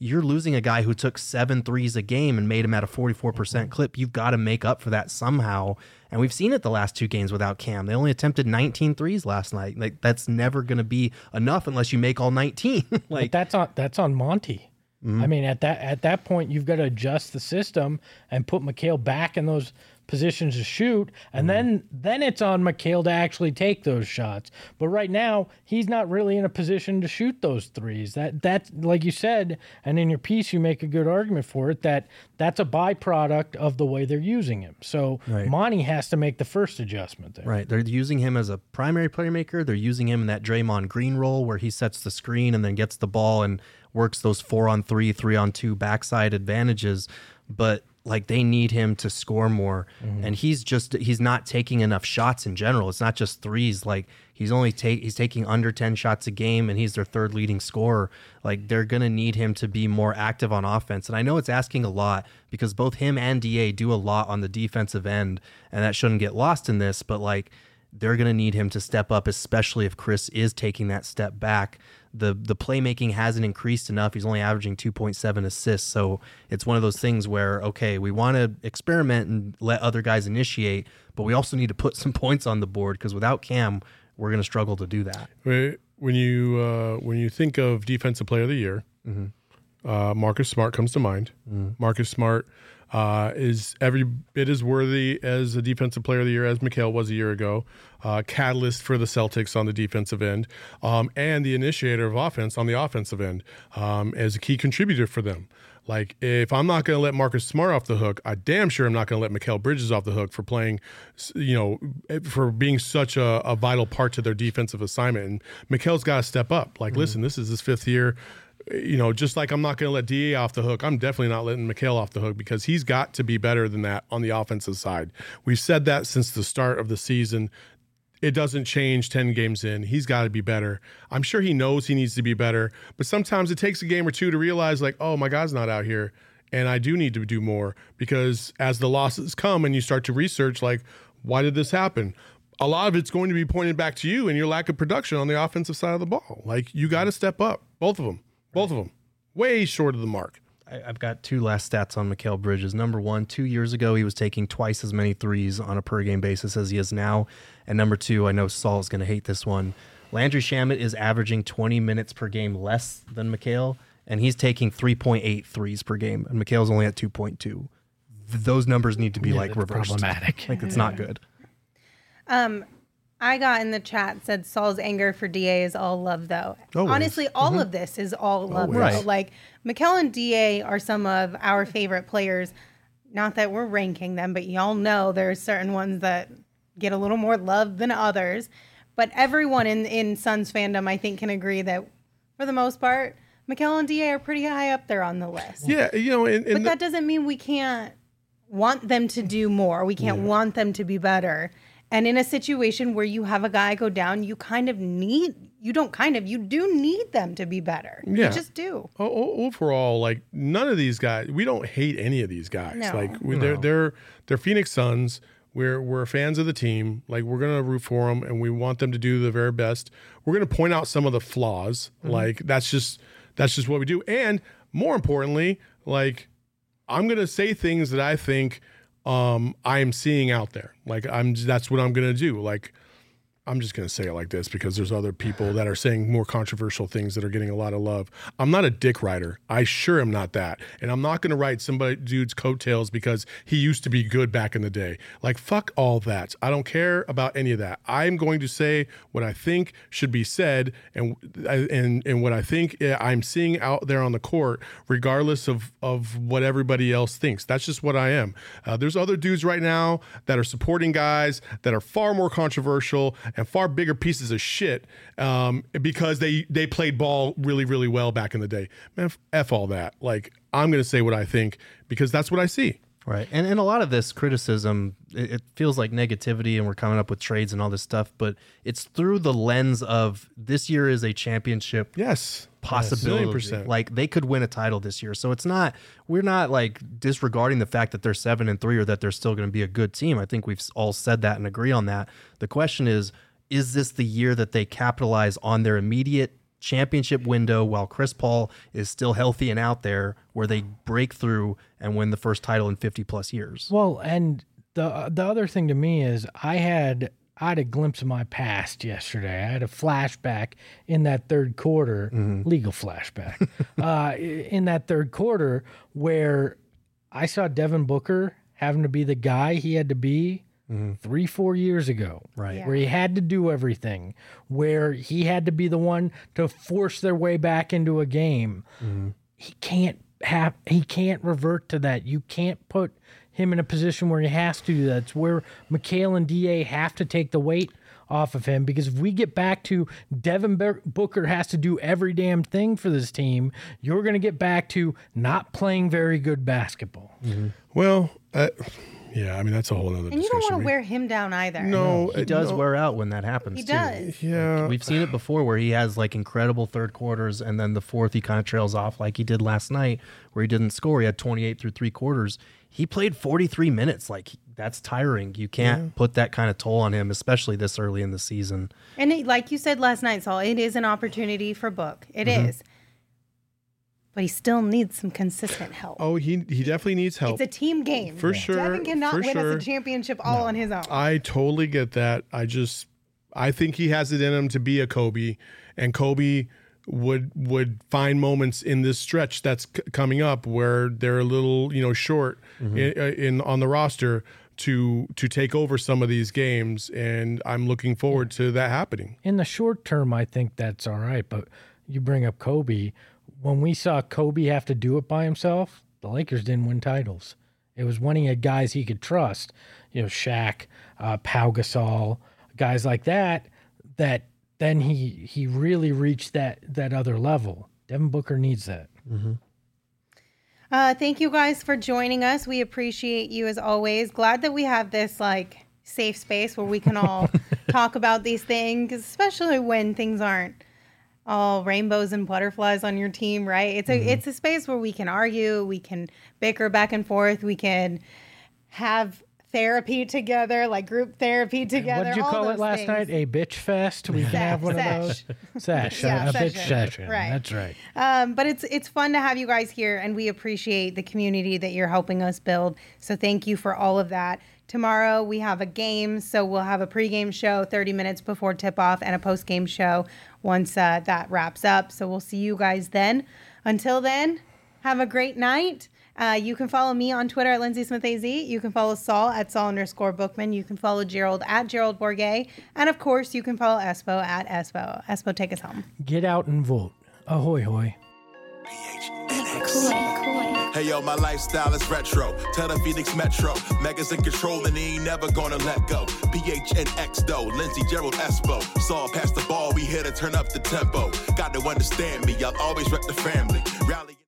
you're losing a guy who took seven threes a game and made him at a forty-four percent mm-hmm. clip. You've got to make up for that somehow. And we've seen it the last two games without Cam. They only attempted nineteen threes last night. Like that's never going to be enough unless you make all nineteen. like but that's on that's on Monty. Mm-hmm. I mean, at that at that point, you've got to adjust the system and put Mikal back in those positions to shoot, and mm-hmm. then then it's on Mikal to actually take those shots. But right now, he's not really in a position to shoot those threes. That that's like you said, and in your piece, you make a good argument for it. That that's a byproduct of the way they're using him. So right. Monty has to make the first adjustment there. Right, they're using him as a primary playmaker. They're using him in that Draymond Green role where he sets the screen and then gets the ball and works those four on three, three on two backside advantages, but like they need him to score more. Mm-hmm. And he's just, he's not taking enough shots in general. It's not just threes. Like he's only take, he's taking under ten shots a game and he's their third leading scorer. Like they're going to need him to be more active on offense. And I know it's asking a lot because both him and D A do a lot on the defensive end, and that shouldn't get lost in this, but like they're going to need him to step up, especially if Chris is taking that step back. The the playmaking hasn't increased enough. He's only averaging two point seven assists. So it's one of those things where, okay, we want to experiment and let other guys initiate, but we also need to put some points on the board because without Cam, we're going to struggle to do that. When you uh, when you think of Defensive Player of the Year, mm-hmm. uh, Marcus Smart comes to mind. Mm-hmm. Marcus Smart uh, is every bit as worthy as a Defensive Player of the Year as Mikal was a year ago. Uh, catalyst for the Celtics on the defensive end, um, and the initiator of offense on the offensive end, um, as a key contributor for them. Like, if I'm not going to let Marcus Smart off the hook, I damn sure I'm not going to let Mikal Bridges off the hook for playing, you know, for being such a, a vital part to their defensive assignment. And Mikal's got to step up. Like, mm-hmm. listen, this is his fifth year. You know, just like I'm not going to let D A off the hook, I'm definitely not letting Mikal off the hook because he's got to be better than that on the offensive side. We've said that since the start of the season. It doesn't change ten games in. He's got to be better. I'm sure he knows he needs to be better, but sometimes it takes a game or two to realize, like, oh, my guy's not out here, and I do need to do more because as the losses come and you start to research, like, why did this happen? A lot of it's going to be pointed back to you and your lack of production on the offensive side of the ball. Like, you got to step up. Both of them. Both of them. Way short of the mark. I've got two last stats on Mikal Bridges. Number one, two years ago, he was taking twice as many threes on a per-game basis as he is now. And number two, I know Saul's going to hate this one. Landry Shamet is averaging twenty minutes per game less than Mikal, and he's taking three point eight threes per game, and Mikal's only at two point two. Those numbers need to be, yeah, like, reversed. Problematic. Like, it's not good. Um, I got in the chat, said Saul's anger for D A is all love, though. Always. Honestly, all mm-hmm. of this is all love, Always. though. Right. Like, Mikal and D A are some of our favorite players. Not that we're ranking them, but y'all know there's certain ones that get a little more love than others. But everyone in, in Suns fandom, I think, can agree that, for the most part, Mikal and D A are pretty high up there on the list. Yeah, you know, and, and but that doesn't mean we can't want them to do more. We can't yeah. want them to be better. And in a situation where you have a guy go down, you kind of need, you don't kind of, you do need them to be better. Yeah. You just do. O- overall, like, none of these guys, we don't hate any of these guys. No. Like, we, No. they're, they're, they're Phoenix Suns. We're, we're fans of the team. Like, we're going to root for them, and we want them to do the very best. We're going to point out some of the flaws. Mm-hmm. Like, that's just, that's just what we do. And more importantly, like, I'm going to say things that I think um, I am seeing out there. Like, I'm, that's what I'm going to do. Like, I'm just going to say it like this because there's other people that are saying more controversial things that are getting a lot of love. I'm not a dick writer. I sure am not that. And I'm not going to write somebody dude's coattails because he used to be good back in the day. Like, fuck all that. I don't care about any of that. I'm going to say what I think should be said and and and what I think I'm seeing out there on the court, regardless of, of what everybody else thinks. That's just what I am. Uh, there's other dudes right now that are supporting guys that are far more controversial and far bigger pieces of shit um, because they, they played ball really, really well back in the day. Man, F all that. Like, I'm going to say what I think because that's what I see. Right. And and a lot of this criticism, it, it feels like negativity and we're coming up with trades and all this stuff, but it's through the lens of this year is a championship yes possibility. Yes, like, they could win a title this year. So it's not, we're not like disregarding the fact that they're seven and three or that they're still going to be a good team. I think we've all said that and agree on that. The question is, is this the year that they capitalize on their immediate championship window while Chris Paul is still healthy and out there where they break through and win the first title in fifty plus years. Well, and the the other thing to me is I had I had a glimpse of my past yesterday. I had a flashback in that third quarter, mm-hmm. legal flashback, uh, in that third quarter where I saw Devin Booker having to be the guy he had to be mm-hmm. three, four years ago. Right. Yeah. Where he had to do everything, where he had to be the one to force their way back into a game. Mm-hmm. He can't have, he can't revert to that. You can't put him in a position where he has to do that. It's where Mikal and D A have to take the weight off of him, because if we get back to Devin Booker has to do every damn thing for this team, you're going to get back to not playing very good basketball. Mm-hmm. Well, uh, yeah, I mean, that's a whole other discussion. And you don't want to wear him down either. No. He does no. wear out when that happens, He too. does. Yeah. We've seen it before where he has, like, incredible third quarters, and then the fourth he kind of trails off like he did last night where he didn't score. He had twenty-eight through three quarters. He played forty-three minutes. Like, that's tiring. You can't yeah. put that kind of toll on him, especially this early in the season. And it, like you said last night, Saul, it is an opportunity for Book. It mm-hmm. is. But he still needs some consistent help. Oh, he he definitely needs help. It's a team game. For yeah. sure. Devin cannot for win sure. us a championship all no. on his own. I totally get that. I just, I think he has it in him to be a Kobe, and Kobe would would find moments in this stretch that's c- coming up where they're a little, you know, short mm-hmm. in, in on the roster to to take over some of these games, and I'm looking forward to that happening. In the short term, I think that's all right, but you bring up Kobe. When we saw Kobe have to do it by himself, the Lakers didn't win titles. It was when he had guys he could trust, you know, Shaq, uh, Pau Gasol, guys like that, that then he he really reached that that other level. Devin Booker needs that. Mm-hmm. Uh, thank you guys for joining us. We appreciate you as always. Glad that we have this like safe space where we can all talk about these things, especially when things aren't all rainbows and butterflies on your team, right? It's a mm-hmm. it's a space where we can argue, we can bicker back and forth, we can have therapy together, like group therapy together. What did you call it last things. night? A bitch fest? We can have one Sesh. of those. Sesh. Yeah, a session. bitch session. Right. That's right. Um, but it's it's fun to have you guys here, and we appreciate the community that you're helping us build. So thank you for all of that. Tomorrow we have a game, so we'll have a pregame show thirty minutes before tip-off and a postgame show once uh, that wraps up. So we'll see you guys then. Until then, have a great night. Uh, you can follow me on Twitter at Lindsay Smith A Z. You can follow Saul at Saul underscore Bookman. You can follow Gerald at Gerald Bourget. And, of course, you can follow Espo at Espo. Espo, take us home. Get out and vote. Ahoy, hoy. Hey yo, my lifestyle is retro. Tell the Phoenix Metro. Megas in control and he ain't never gonna let go. P H N X though, Lindsay, Gerald, Espo. Saw past the ball, we here to turn up the tempo. Got to understand me, I'll always rep the family. Rally.